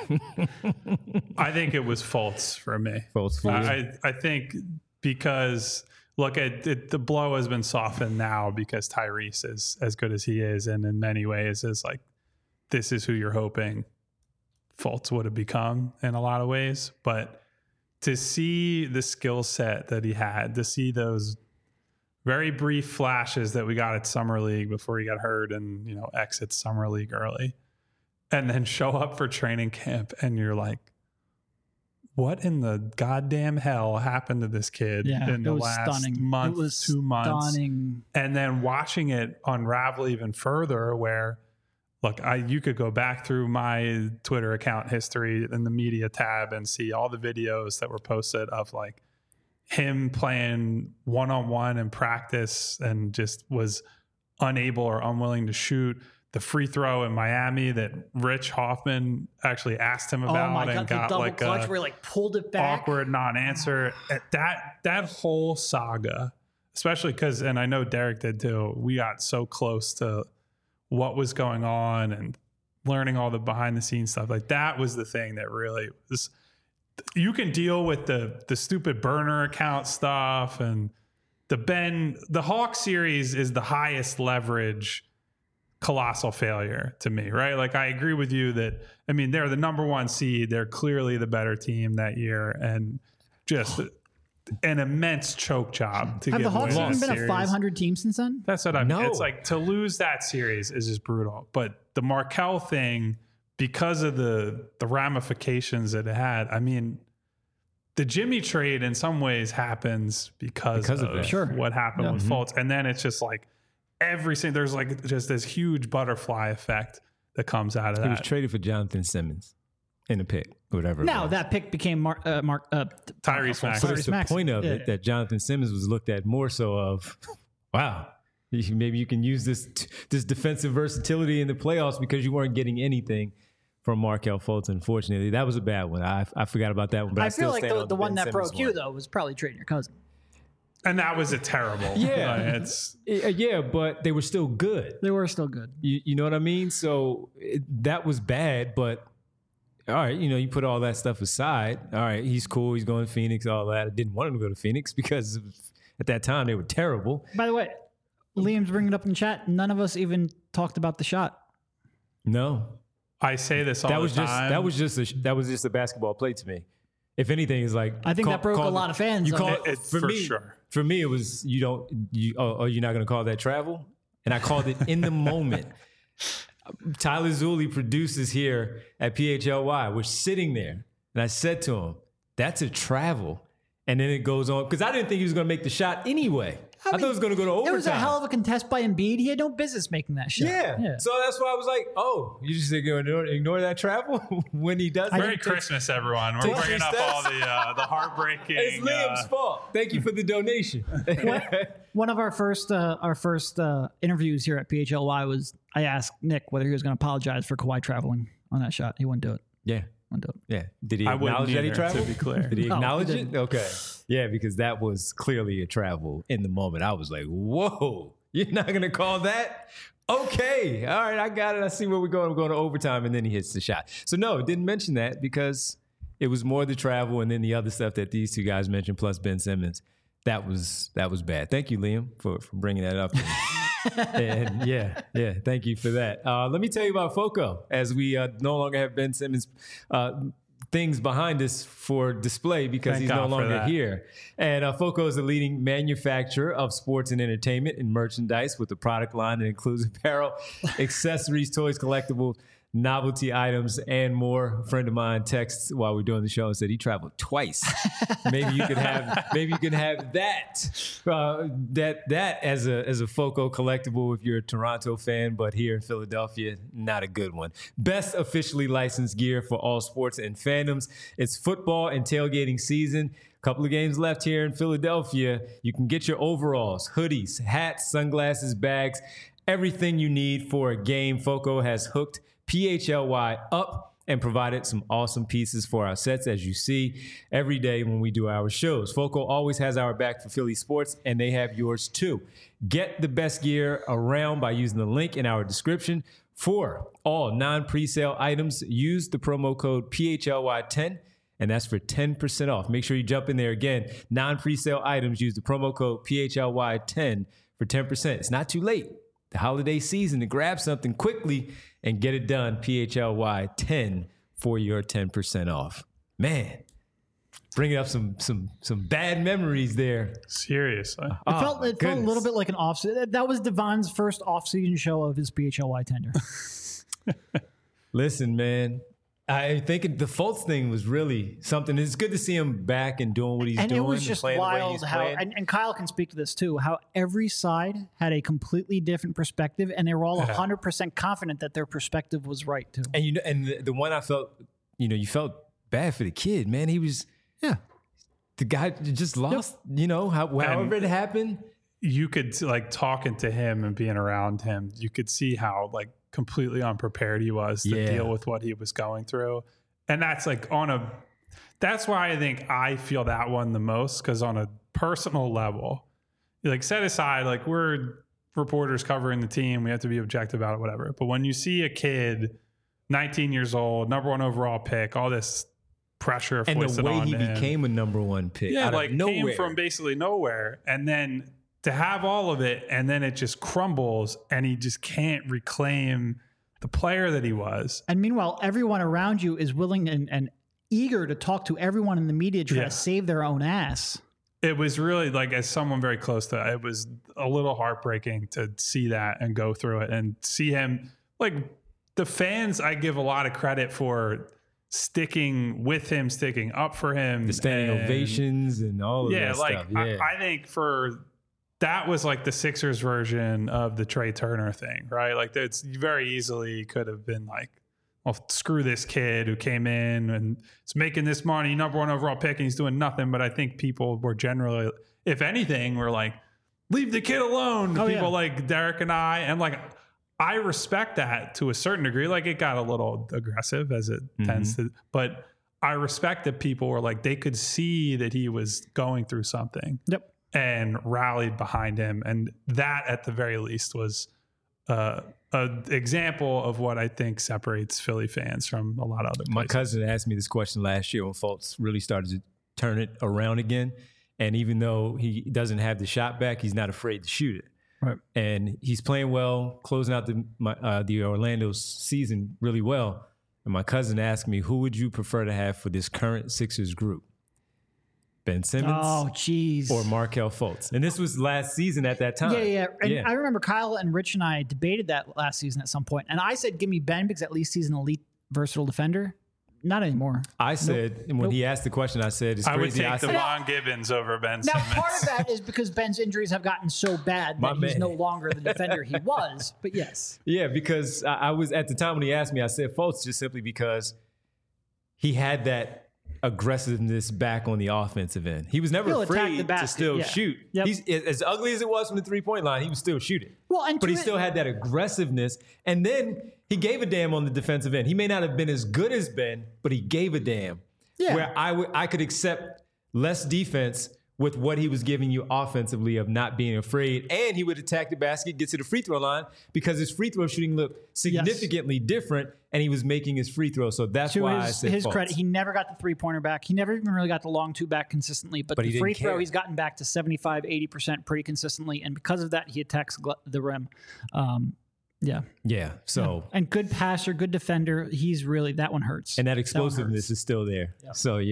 I think it was Fultz for me. Fultz for you? I think because, look, the blow has been softened now because Tyrese is as good as he is, and in many ways is like, this is who you're hoping Fultz would have become in a lot of ways. But to see the skill set that he had, to see those very brief flashes that we got at Summer League before he got hurt and, exits Summer League early, and then show up for training camp and you're like, what in the goddamn hell happened to this kid in the last month, 2 months? Stunning. And then watching it unravel even further where, look, you could go back through my Twitter account history in the media tab and see all the videos that were posted of like him playing one-on-one in practice and just was unable or unwilling to shoot. The free throw in Miami that Rich Hoffman actually asked him about and got like clutch where he pulled it back. Awkward non-answer. That whole saga, especially because, and I know Derek did too, we got so close to what was going on and learning all the behind the scenes stuff. Like that was the thing that really was, you can deal with the stupid burner account stuff and the Hawks series is the highest leverage colossal failure to me, right? Like I agree with you that, I mean, they're the number one seed. They're clearly the better team that year and just an immense choke job to Have get the Hawks even been series. a 500 team since then? That's what I mean. No. It's like to lose that series is just brutal. But the Markelle thing, because of the ramifications that it had, I mean, the Jimmy trade in some ways happens because of what happened with Fultz. And then it's just like, there's like just this huge butterfly effect that comes out of that. He was traded for Jonathan Simmons in a pick, whatever. Now that pick became Tyrese Maxey. But it's the point of it that Jonathan Simmons was looked at more so of, wow, maybe you can use this defensive versatility in the playoffs because you weren't getting anything from Markelle Fultz. Unfortunately, that was a bad one. I forgot about that one. But I feel still like the one that broke you though was probably trading your cousin. And that was a terrible. Yeah, but they were still good. They were still good. You know what I mean? So that was bad, but all right, you put all that stuff aside. All right, he's cool. He's going to Phoenix, all that. I didn't want him to go to Phoenix because at that time they were terrible. By the way, Liam's bringing it up in chat. None of us even talked about the shot. No. I say this all the time. That was just a basketball play to me. If anything, it's like I think that broke a lot of fans. You call it for me, sure. For me, it was you're not going to call that travel, and I called it in the moment. Tyler Zulli produces here at PHLY. We're sitting there, and I said to him, "That's a travel." And then it goes on because I didn't think he was going to make the shot anyway. I thought it was going to go to overtime. It was a hell of a contest by Embiid. He had no business making that shot. Yeah. So that's why I was like, oh, you just ignore that travel when he does it? Merry Christmas, everyone. We're bringing up all the heartbreaking. It's Liam's fault. Thank you for the donation. One of our first interviews here at PHLY was I asked Nick whether he was going to apologize for Kawhi traveling on that shot. He wouldn't do it. Yeah. Yeah. Did he acknowledge that he traveled? To be clear. Did he acknowledge it? Okay. Yeah, because that was clearly a travel in the moment. I was like, whoa, you're not going to call that? Okay. All right, I got it. I see where we're going. We're going to overtime, and then he hits the shot. So, no, didn't mention that because it was more the travel and then the other stuff that these two guys mentioned, plus Ben Simmons. That was bad. Thank you, Liam, for bringing that up. And yeah, thank you for that. Let me tell you about FOCO, as we no longer have Ben Simmons things behind us for display because he's no longer here. And FOCO is a leading manufacturer of sports and entertainment and merchandise with a product line that includes apparel, accessories, toys, collectibles, novelty items, and more. A friend of mine texted while we were doing the show and said he traveled twice. Maybe you can have that as a FOCO collectible if you're a Toronto fan, but here in Philadelphia, not a good one. Best officially licensed gear for all sports and fandoms. It's football and tailgating season. A couple of games left here in Philadelphia. You can get your overalls, hoodies, hats, sunglasses, bags, everything you need for a game. FOCO has hooked PHLY up and provided some awesome pieces for our sets, as you see every day when we do our shows. FOCO always has our back for Philly sports, and they have yours too. Get the best gear around by using the link in our description. For all non-presale items, use the promo code PHLY10, and that's for 10% off. Make sure you jump in there again. Non-presale items, use the promo code PHLY10 for 10%. It's not too late. The holiday season to grab something quickly and get it done. PHLY 10 for your 10% off. Man, bringing up some bad memories there. Seriously. It felt a little bit like an off. That was Devon's first off-season show of his PHLY tenure. Listen, man. I think the Fultz thing was really something. It's good to see him back and doing what he's doing. And it was just wild how, playing. and Kyle can speak to this too, how every side had a completely different perspective, and they were all 100% confident that their perspective was right too. And the one I felt, you felt bad for the kid, man. He was, the guy just lost, however it happened. You could, talking to him and being around him, you could see how, completely unprepared he was to deal with what he was going through. And that's that's why I think I feel that one the most, because on a personal level, set aside, we're reporters covering the team, we have to be objective about it, whatever. But when you see a kid, 19 years old, number 1 overall pick, all this pressure and foisted the way on he him, became a number 1 pick, out of nowhere. Came from basically nowhere, and then to have all of it, and then it just crumbles, and he just can't reclaim the player that he was. And meanwhile, everyone around you is willing and eager to talk to everyone in the media trying to save their own ass. It was really, as someone very close to it was a little heartbreaking to see that and go through it and see him. The fans, I give a lot of credit for sticking with him, sticking up for him. The standing ovations and all of that stuff. Yeah, I think that was the Sixers version of the Trey Turner thing, right? It's very easily could have been well, screw this kid who came in and is making this money, number 1 overall pick, and he's doing nothing. But I think people were generally, if anything, were leave the kid alone. People like Derek and I respect that to a certain degree. It got a little aggressive as it tends to, but I respect that people were they could see that he was going through something. Yep. And rallied behind him. And that, at the very least, was an example of what I think separates Philly fans from a lot of other places. My cousin asked me this question last year when Fultz really started to turn it around again. And even though he doesn't have the shot back, he's not afraid to shoot it. Right. And he's playing well, closing out the Orlando season really well. and my cousin asked me, who would you prefer to have for this current Sixers group? Ben Simmons or Markelle Fultz? And this was last season at that time. Yeah. And I remember Kyle and Rich and I debated that last season at some point. And I said, give me Ben because at least he's an elite, versatile defender. Not anymore. I said, and when he asked the question, I said, it's crazy. I would take Devon Gibbons over Ben Simmons. Simmons. Now, part of that is because Ben's injuries have gotten so bad that he's no longer the defender he was. But yes. Yeah, because I was, at the time when he asked me, I said Fultz just simply because he had that aggressiveness back on the offensive end. He was never afraid to still shoot. Yep. He's as ugly as it was from the 3-point line, he was still shooting. Well, but he still had that aggressiveness. And then he gave a damn on the defensive end. He may not have been as good as Ben, but he gave a damn. Yeah. Where I could accept less defense with what he was giving you offensively of not being afraid. And he would attack the basket, get to the free throw line because his free throw shooting looked significantly different and he was making his free throw. So that's why I said his Fultz. credit, he never got the 3-pointer back. He never even really got the long 2 back consistently. But the free throw, he's gotten back to 75, 80% pretty consistently. And because of that, he attacks the rim. Yeah. So and good passer, good defender. He's really, that one hurts. And that explosiveness is still there. Yeah. So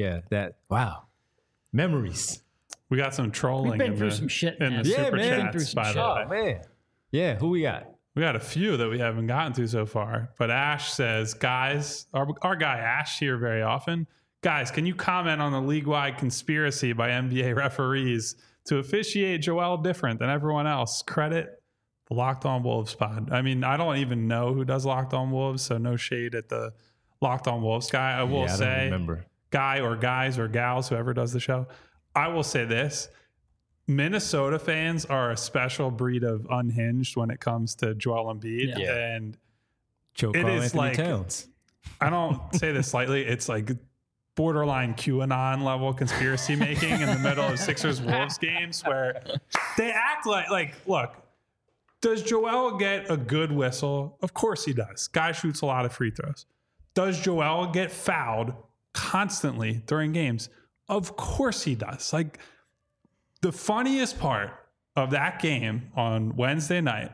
memories. We got some trolling. We've been through some shit, man. In the super chats, by the way. Oh, man. Yeah, who we got? We got a few that we haven't gotten to so far. But Ash says, guys, our guy Ash here very often. Guys, can you comment on the league-wide conspiracy by NBA referees to officiate Joel different than everyone else? Credit the Locked On Wolves pod. I mean, I don't even know who does Locked On Wolves, so no shade at the Locked On Wolves guy. I will say, guy or guys or gals, whoever does the show, I will say this. Minnesota fans are a special breed of unhinged when it comes to Joel Embiid. Yeah. And it is Anthony Towns. I don't say this slightly. It's like borderline QAnon level conspiracy making in the middle of Sixers Wolves games where they act like, look, does Joel get a good whistle? Of course he does. Guy shoots a lot of free throws. Does Joel get fouled constantly during games? Of course he does. Like, the funniest part of that game on Wednesday night,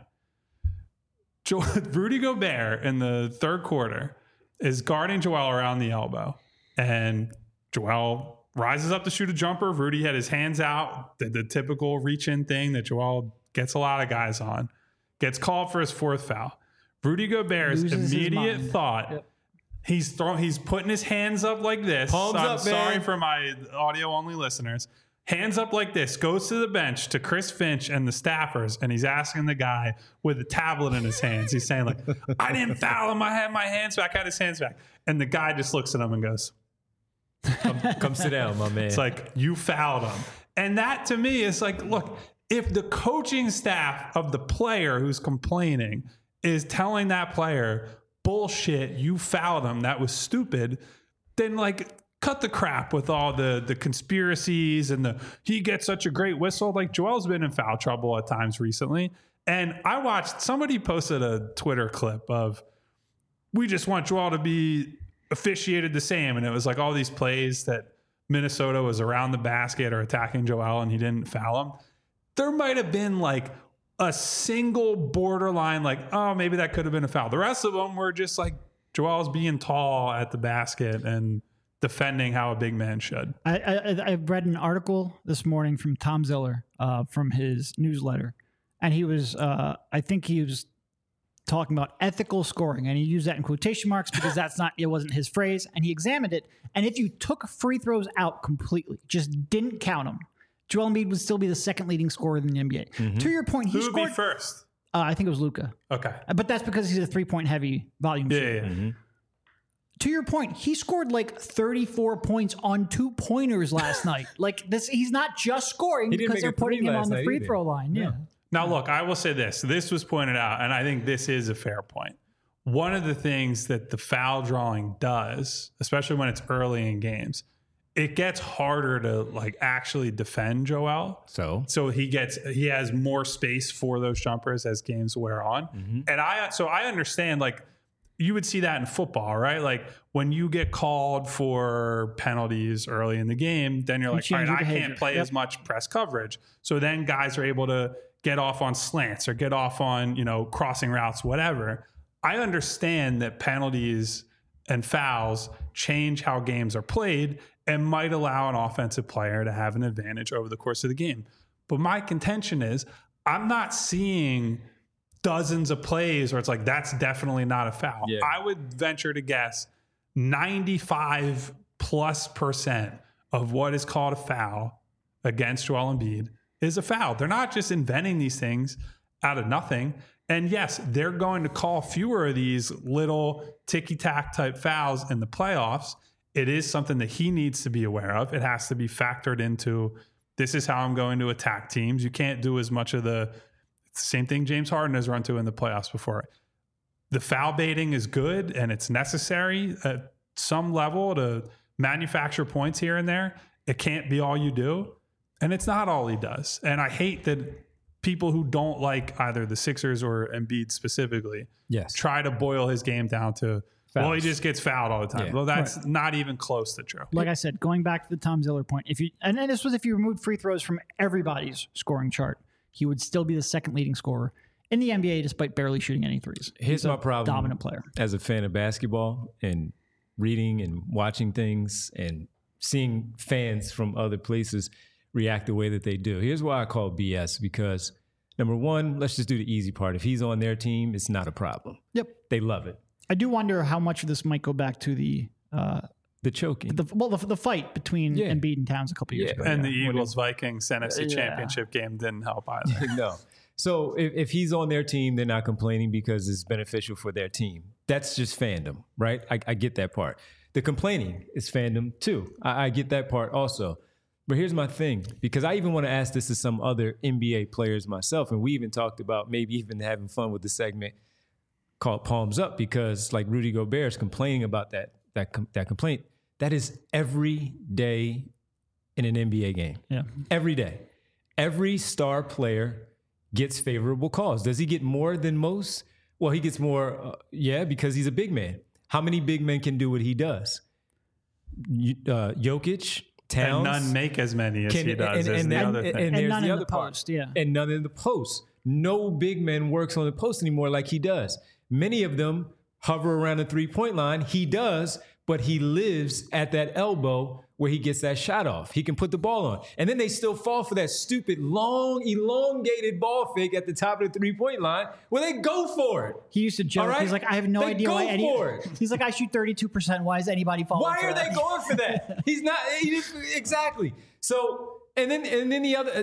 Rudy Gobert in the third quarter is guarding Joel around the elbow. And Joel rises up to shoot a jumper. Rudy had his hands out, the typical reach-in thing that Joel gets a lot of guys on. Gets called for his 4th foul. Rudy Gobert's immediate thought, he's putting his hands up like this. Palms up, sorry man. for my audio-only listeners. Hands up like this, goes to the bench to Chris Finch and the staffers, and he's asking the guy with a tablet in his hands. He's saying, like, I didn't foul him. I had my hands back. I had his hands back. And the guy just looks at him and goes, Come sit down, my man. It's like, you fouled him. And that, to me, is like, look, if the coaching staff of the player who's complaining is telling that player, bullshit, you fouled him, that was stupid, then, like, cut the crap with all the conspiracies and he gets such a great whistle. Like, Joel's been in foul trouble at times recently. And I watched, somebody posted a Twitter clip of, we just want Joel to be officiated the same. And it was like all these plays that Minnesota was around the basket or attacking Joel and he didn't foul him. There might have been like a single borderline, like, oh, maybe that could have been a foul. The rest of them were just like Joel's being tall at the basket and defending how a big man should. I read an article this morning from Tom Ziller from his newsletter, and he was, I think he was talking about ethical scoring, and he used that in quotation marks because it wasn't his phrase, and he examined it, and if you took free throws out completely, just didn't count them, Joel Embiid would still be the second leading scorer in the NBA. Mm-hmm. To your point, Who would be first? I think it was Luka. Okay. But that's because he's a 3-point heavy volume shooter. Yeah. Mm-hmm. To your point, he scored like 34 points on 2-pointers last night. Like, this, he's not just scoring because they're putting him on the free throw line. Yeah. Now, look, I will say this. This was pointed out, and I think this is a fair point. One of the things that the foul drawing does, especially when it's early in games, it gets harder to like actually defend Joel. So he has more space for those jumpers as games wear on. Mm-hmm. And I understand, like, you would see that in football, right? Like, when you get called for penalties early in the game, then you're like, all right, I can't play as much press coverage. So then guys are able to get off on slants or get off on, crossing routes, whatever. I understand that penalties and fouls change how games are played and might allow an offensive player to have an advantage over the course of the game. But my contention is I'm not seeing dozens of plays where it's like, that's definitely not a foul. Yeah. I would venture to guess 95+% of what is called a foul against Joel Embiid is a foul. They're not just inventing these things out of nothing. And yes, they're going to call fewer of these little ticky-tack type fouls in the playoffs. It is something that he needs to be aware of. It has to be factored into, this is how I'm going to attack teams. You can't do as much of the same thing James Harden has run to in the playoffs before. The foul baiting is good and it's necessary at some level to manufacture points here and there. It can't be all you do. And it's not all he does. And I hate that people who don't like either the Sixers or Embiid specifically try to boil his game down to, well, he just gets fouled all the time. Well, that's not even close to true. Like I said, going back to the Tom Ziller point, and this was if you removed free throws from everybody's scoring chart, he would still be the second leading scorer in the NBA despite barely shooting any threes. Here's my problem. Dominant player. As a fan of basketball and reading and watching things and seeing fans from other places react the way that they do. Here's why I call BS, because number one, let's just do the easy part. If he's on their team, it's not a problem. Yep. They love it. I do wonder how much of this might go back to the choking. The fight between Embiid and Towns a couple years ago. And the Eagles-Vikings NFC Championship game didn't help either. No. So if he's on their team, they're not complaining because it's beneficial for their team. That's just fandom, right? I get that part. The complaining is fandom too. I get that part also. But here's my thing, because I even want to ask this to some other NBA players myself, and we even talked about maybe even having fun with the segment called Palms Up, because like Rudy Gobert is complaining about that complaint. That is every day in an NBA game. Yeah. Every day. Every star player gets favorable calls. Does he get more than most? Well, he gets more, because he's a big man. How many big men can do what he does? Jokic, Towns. And none make as many as he does. And there's none the in other the part. post, yeah. And none in the post. No big man works on the post anymore like he does. Many of them hover around the three-point line. He does, but he lives at that elbow where he gets that shot off. He can put the ball on. And then they still fall for that stupid, long, elongated ball fake at the top of the three-point line where they go for it. He used to joke. Right? He's like, I have no idea why He's like, I shoot 32%. Why is anybody falling Why for are that? they going for that? He's not exactly. So and then the other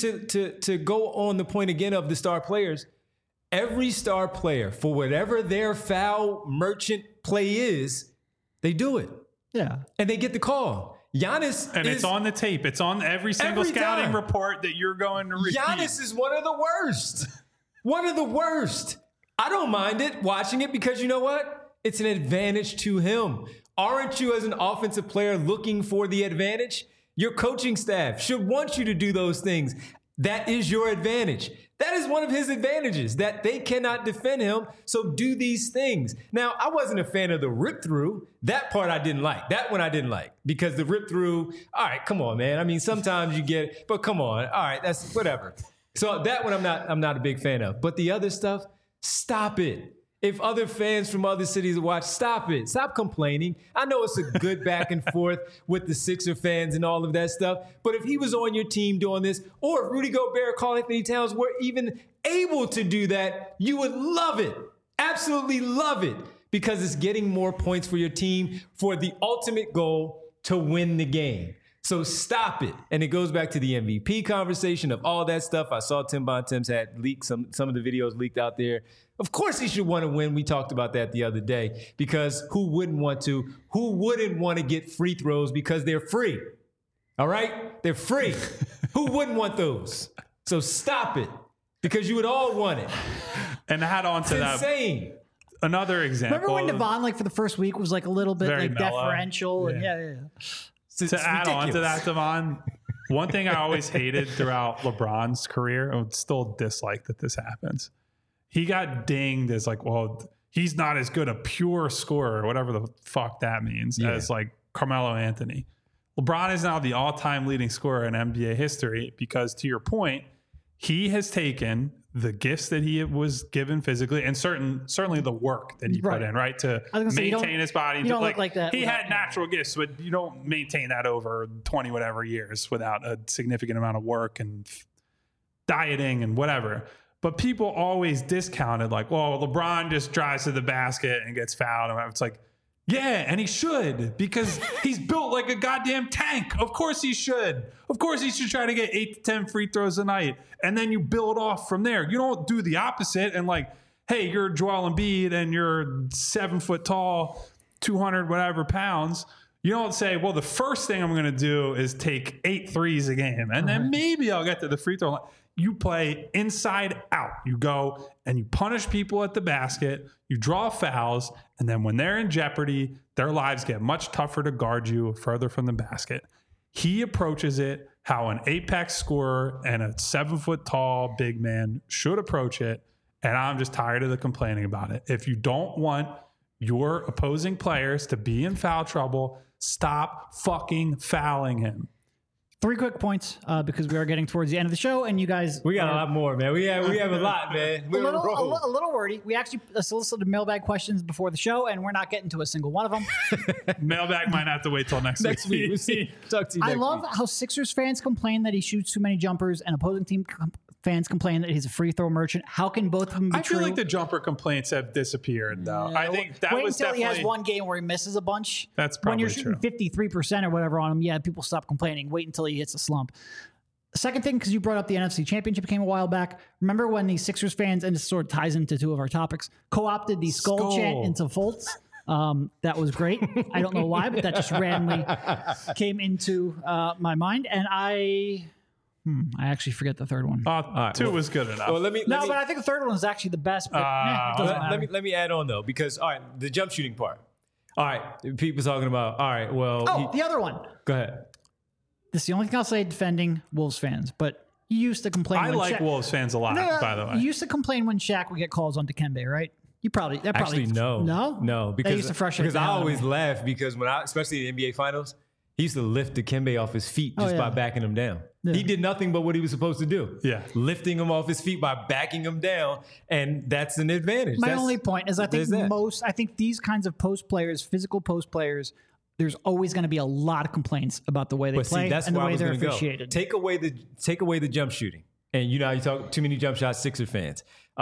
to go on the point again of the star players, every star player, for whatever their foul merchant play is, they do it. Yeah. And they get the call. Giannis it's on the tape. It's on every single scouting time. report that you're going to read. Giannis is one of the worst. One of the worst. I don't mind it, watching it, because you know what? It's an advantage to him. Aren't you, as an offensive player, looking for the advantage? Your coaching staff should want you to do those things. That is your advantage. That is one of his advantages, that they cannot defend him. So do these things. Now, I wasn't a fan of the rip through. That part I didn't like. That one I didn't like, because the rip through, all right, come on, man. I mean, sometimes you get it, but come on. All right, that's whatever. So that one I'm not a big fan of. But the other stuff, stop it. If other fans from other cities watch, stop it. Stop complaining. I know it's a good back and forth with the Sixer fans and all of that stuff. But if he was on your team doing this, or if Rudy Gobert, Karl Anthony Towns were even able to do that, you would love it. Absolutely love it. Because it's getting more points for your team for the ultimate goal to win the game. So stop it. And it goes back to the MVP conversation of all that stuff. I saw Tim Bontemps had leaked some of the videos leaked out there. Of course he should want to win. We talked about that the other day, because who wouldn't want to? Who wouldn't want to get free throws because they're free? All right? They're free. Who wouldn't want those? So stop it, because you would all want it. And add on to that. Insane. Another example. Remember when Devon, like for the first week, was like a little bit Very like mellow. deferential? And Yeah. yeah. To add on to that, Devon, one thing I always hated throughout LeBron's career, and would still dislike that this happens, he got dinged as like, well, he's not as good a pure scorer, whatever the fuck that means, as like Carmelo Anthony. LeBron is now the all-time leading scorer in NBA history because, to your point, he has taken the gifts that he was given physically and certainly the work that he put in, right? To maintain his body. You don't look like that. He had natural gifts, but you don't maintain that over 20 whatever years without a significant amount of work and dieting and whatever. But people always discounted like, well, LeBron just drives to the basket and gets fouled. And it's like, yeah, and he should, because he's built like a goddamn tank. Of course he should. Of course he should try to get 8 to 10 free throws a night. And then you build off from there. You don't do the opposite and like, hey, you're Joel Embiid and you're 7 foot tall, 200 whatever pounds. You don't say, well, the first thing I'm going to do is take 8 threes a game. And then maybe I'll get to the free throw line. You play inside out. You go and you punish people at the basket. You draw fouls. And then when they're in jeopardy, their lives get much tougher to guard you further from the basket. He approaches it how an apex scorer and a 7 foot tall big man should approach it. And I'm just tired of the complaining about it. If you don't want your opposing players to be in foul trouble, stop fucking fouling him. 3 quick points because we are getting towards the end of the show, and you guys we got a lot more, man. We have a lot, man. A little wordy. We actually solicited mailbag questions before the show, and we're not getting to a single one of them. Mailbag might have to wait till next week. We'll see. Talk to you I next love week. how Sixers fans complain that he shoots too many jumpers, and opposing team fans complain that he's a free throw merchant. How can both of them be I feel true? like the jumper complaints have disappeared, though. I think that wait was until definitely... he has one game where he misses a bunch. That's probably when you're shooting 53% or whatever on him. Yeah, people stop complaining. Wait until he hits a slump. Second thing, because you brought up the NFC Championship game a while back. Remember when the Sixers fans, and this sort of ties into 2 of our topics, co-opted the skull chant into Fultz? That was great. I don't know why, but that just randomly came into my mind. And I actually forget the third one. Right, 2 was good enough. Well, But I think the third one is actually the best. But it doesn't matter. let me add on though, because all right, the jump shooting part. All right, people talking about. All right, well, the other one. Go ahead. This is the only thing I'll say defending Wolves fans, but you used to complain. I when like Shaq, Wolves fans a lot, by the way. You used to complain when Shaq would get calls on Dikembe, right? Actually no, because that used to frustrate because the I hell out of always me. laugh because when especially in the NBA Finals, he used to lift Dikembe off his feet just by backing him down. Yeah. He did nothing but what he was supposed to do. Yeah, lifting him off his feet by backing him down, and that's an advantage. My only point is I think these kinds of post players, physical post players, there's always going to be a lot of complaints about the way they play that's and the where I way was they're gonna go. officiated. Take away the jump shooting, and you know you talk too many jump shots. Sixer fans,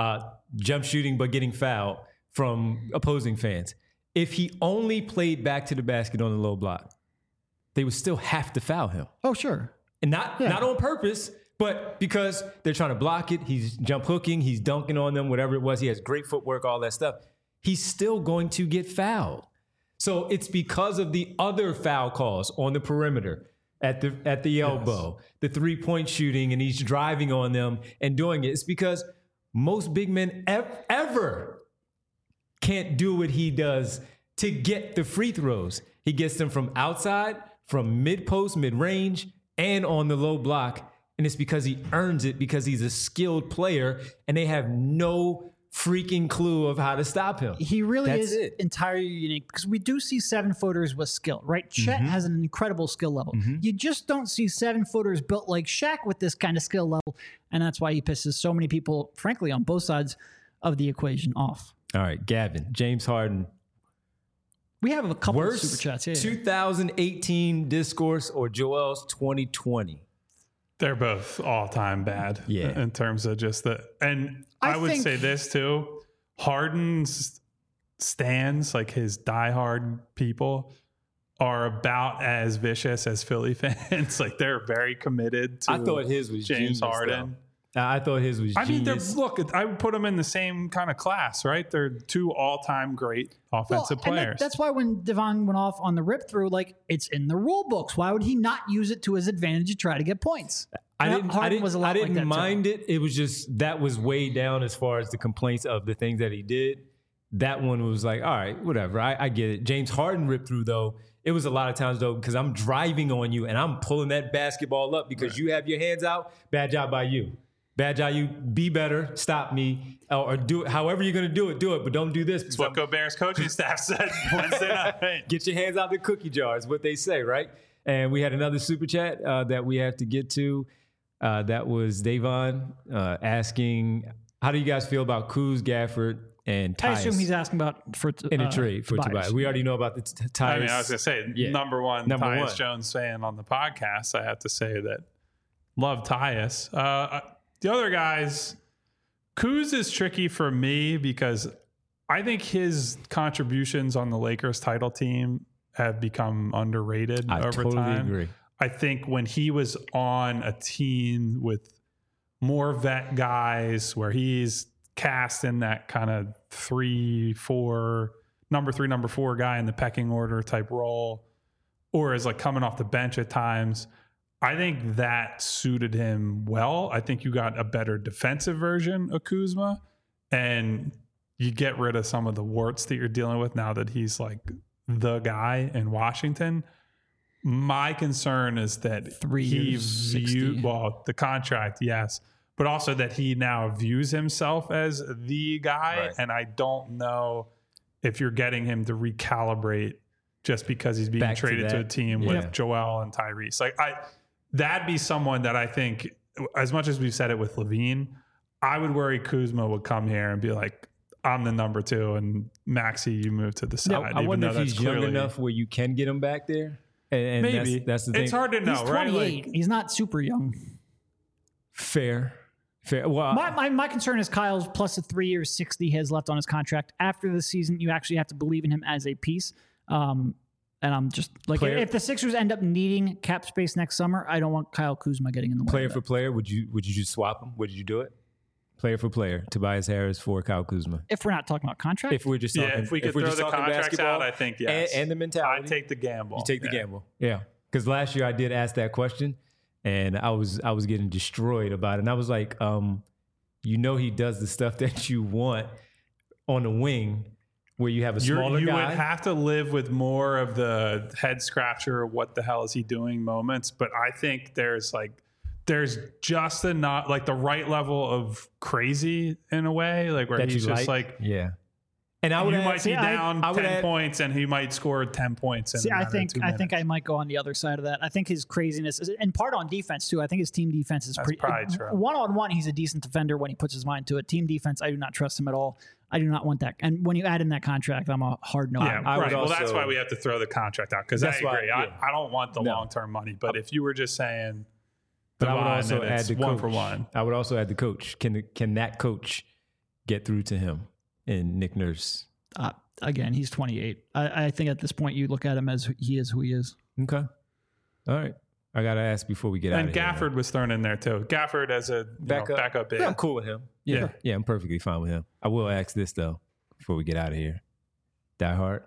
jump shooting but getting fouled from opposing fans. If he only played back to the basket on the low block, they would still have to foul him. Oh, sure. And not on purpose, but because they're trying to block it. He's jump hooking, he's dunking on them, whatever it was. He has great footwork, all that stuff. He's still going to get fouled. So it's because of the other foul calls on the perimeter, at the elbow, the 3-point shooting, and he's driving on them and doing it. It's because most big men ever can't do what he does to get the free throws. He gets them from outside, from mid-post, mid-range, and on the low block. And it's because he earns it, because he's a skilled player, and they have no freaking clue of how to stop him. He really is entirely unique because we do see 7-footers with skill, right? Chet has an incredible skill level. You just don't see 7-footers built like Shaq with this kind of skill level. And that's why he pisses so many people, frankly, on both sides of the equation off. All right, Gavin, James Harden. We have a couple Worst of super chats. Yeah. 2018 discourse or Joel's 2020? They're both all-time bad in terms of just the... And I would say this, too. Harden's stands, like his diehard people, are about as vicious as Philly fans. Like, they're very committed to I thought his was James genius, Harden. I thought his was genius. Look, I would put them in the same kind of class, right? They're 2 all-time great offensive players. That's why when Devon went off on the rip through, like, it's in the rule books. Why would he not use it to his advantage to try to get points? I didn't mind it. It was just that was way down as far as the complaints of the things that he did. That one was like, all right, whatever. I get it. James Harden ripped through, though. It was a lot of times, though, because I'm driving on you and I'm pulling that basketball up because you have your hands out. Bad job by you. Bad job, you. Be better. Stop me. Or do it. However you're going to do it, but don't do this. That's what Gobert's coaching staff said Wednesday night. Get your hands out the cookie jar is what they say, right? And we had another super chat that we have to get to. That was Davon asking, how do you guys feel about Kuz, Gafford, and I Tyus assume he's asking about in a trade for Tobias? We already know about the Tyus. I mean, I was going to say, number one Tyus 1 Jones fan on the podcast. I have to say that love Tyus. The other guys, Kuz is tricky for me because I think his contributions on the Lakers title team have become underrated over totally time. Agree. I think when he was on a team with more vet guys where he's cast in that kind of number 3, number 4 guy in the pecking order type role, or is like coming off the bench at times, I think that suited him well. I think you got a better defensive version of Kuzma, and you get rid of some of the warts that you're dealing with now that he's like the guy in Washington. My concern is that 3 years, 60. The contract, yes, but also that he now views himself as the guy. Right. And I don't know if you're getting him to recalibrate just because he's being traded to a team with Joel and Tyrese. Like that'd be someone that I think, as much as we've said it with Levine, I would worry Kuzma would come here and be like, I'm the number 2, and Maxey, you move to the side. I wonder if he's young enough where you can get him back there. And maybe that's the thing. It's hard to know, He's right? 28. He's not super young. Fair. Well, my concern is Kyle's plus the 3 years, 60 he has left on his contract. After the season, you actually have to believe in him as a piece. And I'm just like, if the Sixers end up needing cap space next summer, I don't want Kyle Kuzma getting in the way. Player for player, would you just swap him? Would you do it? Player for player, Tobias Harris for Kyle Kuzma. If we're not talking about contract, if we're just talking, if we could throw the contracts out, I think yes. And the mentality. I take the gamble. You take the gamble, yeah. Because last year I did ask that question, and I was getting destroyed about it. And I was like, he does the stuff that you want on the wing, where you have a smaller you guy. You would have to live with more of the head scratcher, what the hell is he doing moments. But I think there's just enough, like the right level of crazy in a way, like where he's just like, yeah. And I would might be down 10 points and he might score 10 points. I think I might go on the other side of that. I think his craziness is, and part on defense too. I think his team defense is pretty true. One-on-one, he's a decent defender when he puts his mind to it. Team defense, I do not trust him at all. I do not want that. And when you add in that contract, I'm a hard no. Yeah, right. Well, that's why we have to throw the contract out, because I agree. I don't want the long-term money. But if you were just saying, but I would also add the one coach. For one. I would also add the coach. Can that coach get through to him and Nick Nurse? Again, he's 28. I think at this point you look at him as he is who he is. Okay. All right. I got to ask before we get out of here. And Gafford was thrown in there too. Gafford as a backup big. Yeah, I'm cool with him. Yeah, I'm perfectly fine with him. I will ask this though before we get out of here. Die Hard.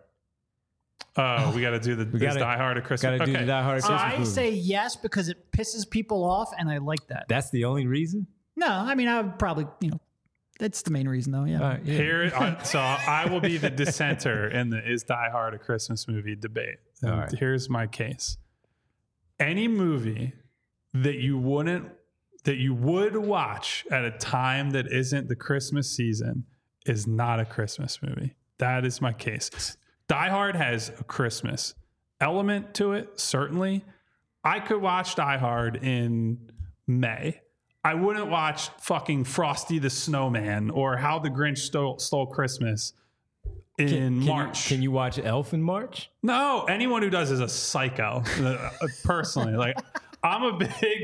We got to do Die Hard at Christmas. Got to do the Die Hard at Christmas. I say yes because it pisses people off, and I like that. That's the only reason? No, I mean I would probably that's the main reason though. Yeah. Right, yeah. Here, so I will be the dissenter in the is Die Hard a Christmas movie debate. And here's my case. Any movie that you would watch at a time that isn't the Christmas season is not a Christmas movie. That is my case. Die Hard has a Christmas element to it, certainly. I could watch Die Hard in May. I wouldn't watch fucking Frosty the Snowman or How the Grinch Stole Christmas in March. Can you watch Elf in March? No, anyone who does is a psycho. Personally, like I'm a big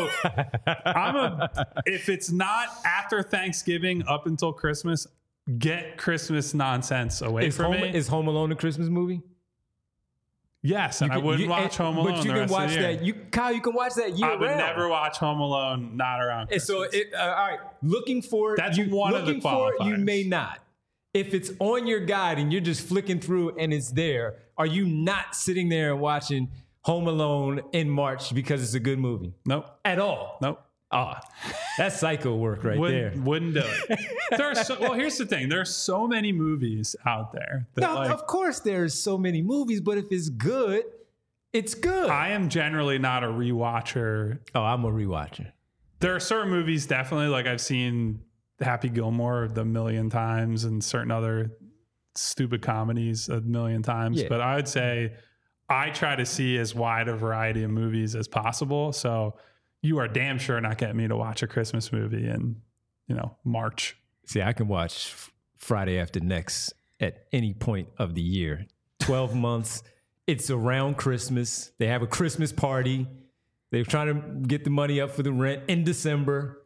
if it's not after Thanksgiving up until Christmas, get Christmas nonsense away from me. Is Home Alone a Christmas movie? Yes, and I wouldn't watch Home Alone. But you can watch that. Kyle, you can watch that year round. I would never watch Home Alone not around Christmas. So, all right, looking for that's one of the qualifiers. You may not. If it's on your guide and you're just flicking through and it's there, are you not sitting there and watching Home Alone in March because it's a good movie? Nope. At all? Nope. That's psycho work there. Wouldn't do it. Well, here's the thing. There's so many movies out there. Of course there's so many movies, but if it's good, it's good. I am generally not a rewatcher. Oh, I'm a rewatcher. There are certain movies, definitely, like I've seen Happy Gilmore a million times and certain other stupid comedies a million times. Yeah. But I would say I try to see as wide a variety of movies as possible. So you are damn sure not getting me to watch a Christmas movie in, March. See, I can watch Friday After Next at any point of the year. 12 months. It's around Christmas. They have a Christmas party. They're trying to get the money up for the rent in December.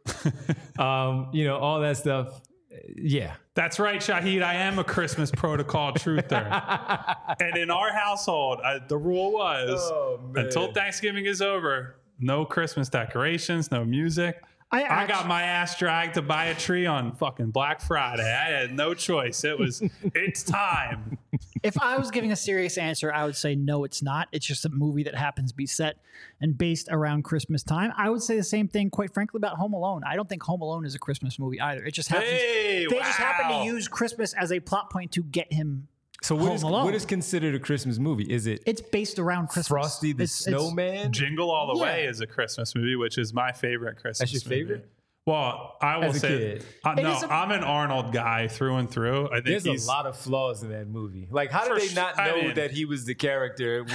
All that stuff. Yeah. That's right, Shahid. I am a Christmas protocol truther. And in our household, the rule was until Thanksgiving is over, no Christmas decorations, no music. I got my ass dragged to buy a tree on fucking Black Friday. I had no choice. It's time. If I was giving a serious answer, I would say no, it's not. It's just a movie that happens to be set and based around Christmas time. I would say the same thing, quite frankly, about Home Alone. I don't think Home Alone is a Christmas movie either. It just happens. They just happen to use Christmas as a plot point to get him. So what is considered a Christmas movie? Is it? It's based around Christmas. Frosty the Snowman? Jingle All the Way is a Christmas movie, which is my favorite Christmas movie. That's your favorite? Well, I will say, I'm an Arnold guy through and through. I think there's a lot of flaws in that movie. Like, how did they not know that he was the character?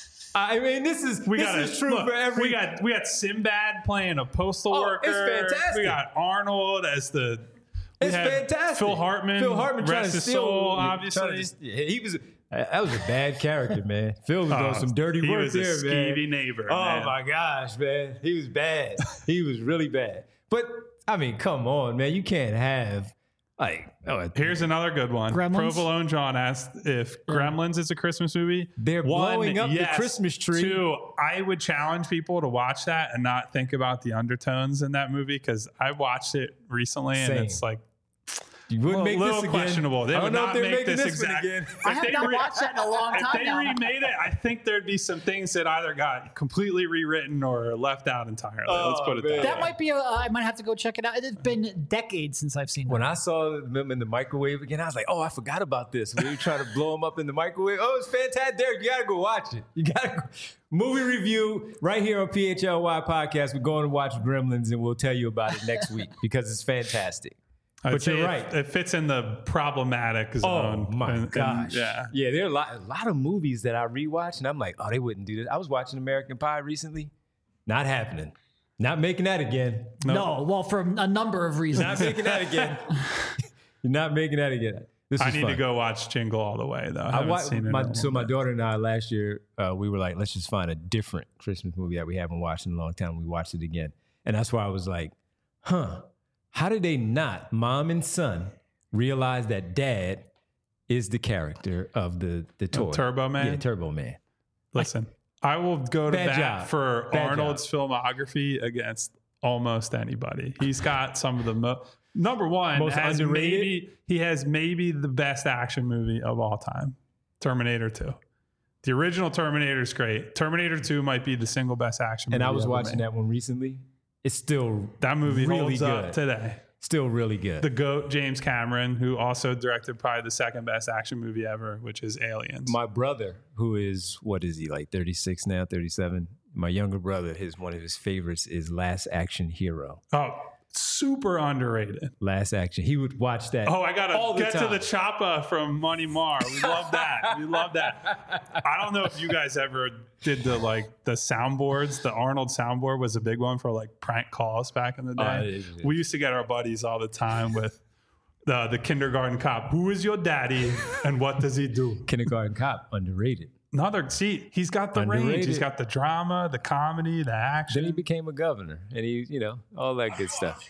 I mean, this is true for every. We got Sinbad playing a postal worker. It's fantastic. We got Arnold as the. It's fantastic. Phil Hartman rest his soul, obviously. That was a bad character, man. Phil was doing some dirty work there, man. He was a skeevy neighbor. Oh, my gosh, man. He was bad. He was really bad. But, I mean, come on, man. You can't have, Here's another good one. Gremlins? Provolone John asked if Gremlins is a Christmas movie. They're blowing up the Christmas tree. 2, I would challenge people to watch that and not think about the undertones in that movie, because I watched it recently and it's like, you wouldn't make this again. Questionable. They would not make this exact. Again. I have not watched that in a long time. If they remade it, I think there'd be some things that either got completely rewritten or left out entirely. Let's put it that way. That might be. I might have to go check it out. It's been decades since I've seen it. When I saw them in the microwave again, I was like, "Oh, I forgot about this." We were trying to blow them up in the microwave. Oh, it's fantastic, Derek. You gotta go watch it. You gotta go. Movie review right here on PHLY Podcast. We're going to watch Gremlins, and we'll tell you about it next week because it's fantastic. But you're right. It fits in the problematic zone. Oh, my gosh. Yeah, there are a lot of movies that I rewatch, and I'm like, oh, they wouldn't do this. I was watching American Pie recently. Not happening. Not making that again. No, well, for a number of reasons. Not making that again. You're not making that again. I need to go watch Jingle All the Way, though. My daughter and I last year, we were like, let's just find a different Christmas movie that we haven't watched in a long time. We watched it again. And that's why I was like, how did they not, mom and son, realize that dad is the character of the toy? Turbo Man? Yeah, Turbo Man. Listen, I will go to bat for Arnold's filmography against almost anybody. He's got some of the number one, most underrated. He has maybe the best action movie of all time, Terminator 2. The original Terminator is great. Terminator 2 might be the single best action movie. And I was watching that one recently. It's still that movie really holds good up today. Still really good. The GOAT, James Cameron, who also directed probably the second best action movie ever, which is Aliens. My brother, who is, what is he, like 36 now, 37? My younger brother, one of his favorites is Last Action Hero. Oh, super underrated. Last Action. He would watch that. Oh, I got to get to the choppa from Money Mar. We love that. We love that. I don't know if you guys ever did the soundboards. The Arnold soundboard was a big one for prank calls back in the day. We used to get our buddies all the time with the kindergarten cop. Who is your daddy and what does he do? Kindergarten Cop, underrated. He's got the range. He's got the drama, the comedy, the action. Then he became a governor, and he, all that good stuff.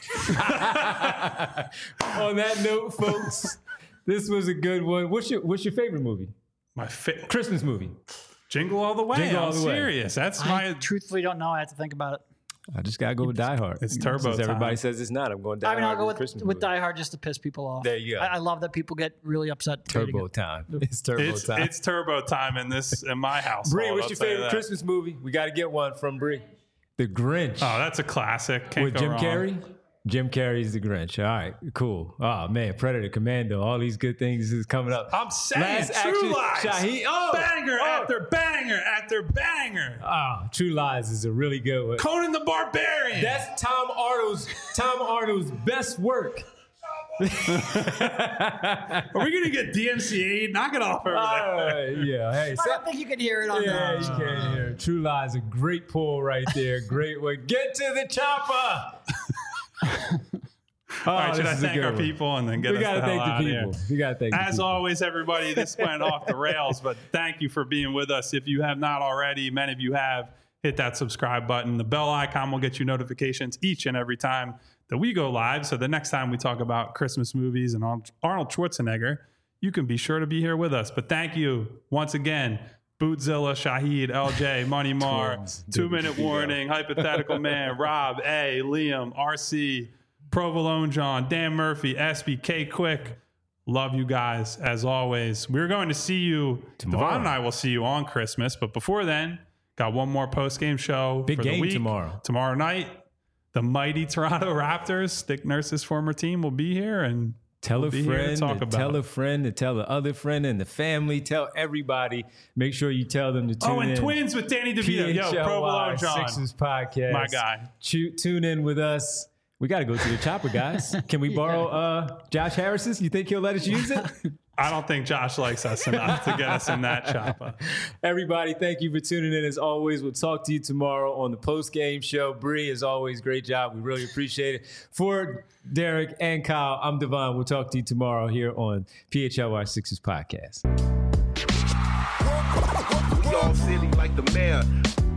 On that note, folks, this was a good one. What's your favorite movie? My Christmas movie. Jingle All the Way. Jingle All the Way. Serious. I truthfully don't know. I have to think about it. I just gotta go with Die Hard. It's Turbo time. Everybody says it's not. I'm going Die Hard. I'll go with Die Hard just to piss people off. There you go. I love that people get really upset. Turbo time. It's Turbo time. It's Turbo time in my house. Bree, what's your favorite Christmas movie? We got to get one from Bree. The Grinch. Oh, that's a classic. Can't with go Jim wrong. Carrey. Jim Carrey's The Grinch. All right, cool. Oh man, Predator, Commando, all these good things is coming up. I'm saying True Lies. Banger after banger after banger. True Lies is a really good one. Conan the Barbarian. That's Tom Arnold's best work. Are we going to get DMCA? Knock it off over there. Yeah. Hey, I don't think you can hear it on yeah, that. you can't hear. True Lies, a great pull right there. Great one. Get to the chopper. All right, should I thank our people and then get us the hell out of here? We got to thank the people. As always, everybody, this went off the rails, but thank you for being with us. If you have not already, many of you have, hit that subscribe button. The bell icon will get you notifications each and every time that we go live. So the next time we talk about Christmas movies and Arnold Schwarzenegger, you can be sure to be here with us. But thank you once again, Bootzilla, Shahid, LJ, Money Mar, 2 Minute Warning, Hypothetical Man, Rob, A, Liam, RC, Provolone John, Dan Murphy, SBK Quick. Love you guys as always. We're going to see you tomorrow. Devon and I will see you on Christmas, but before then, got one more post-game show Big for game the week. tomorrow Night, the mighty Toronto Raptors, Dick Nurse's former team, will be here and tell we'll a friend, tell a friend, to tell the other friend and the family. Tell everybody. Make sure you tell them to tune in. Oh, and Twins with Danny DeVito. Yo, Provolone John. Sixers podcast. My guy. Tune in with us. We got to go to the chopper, guys. Can we borrow Josh Harris's? You think he'll let us use it? I don't think Josh likes us enough to get us in that chopper. Everybody, thank you for tuning in. As always, we'll talk to you tomorrow on the post-game show. Bree, as always, great job. We really appreciate it. For Derek and Kyle, I'm Devon. We'll talk to you tomorrow here on PHLY Sixers Podcast. Y'all silly like the mayor.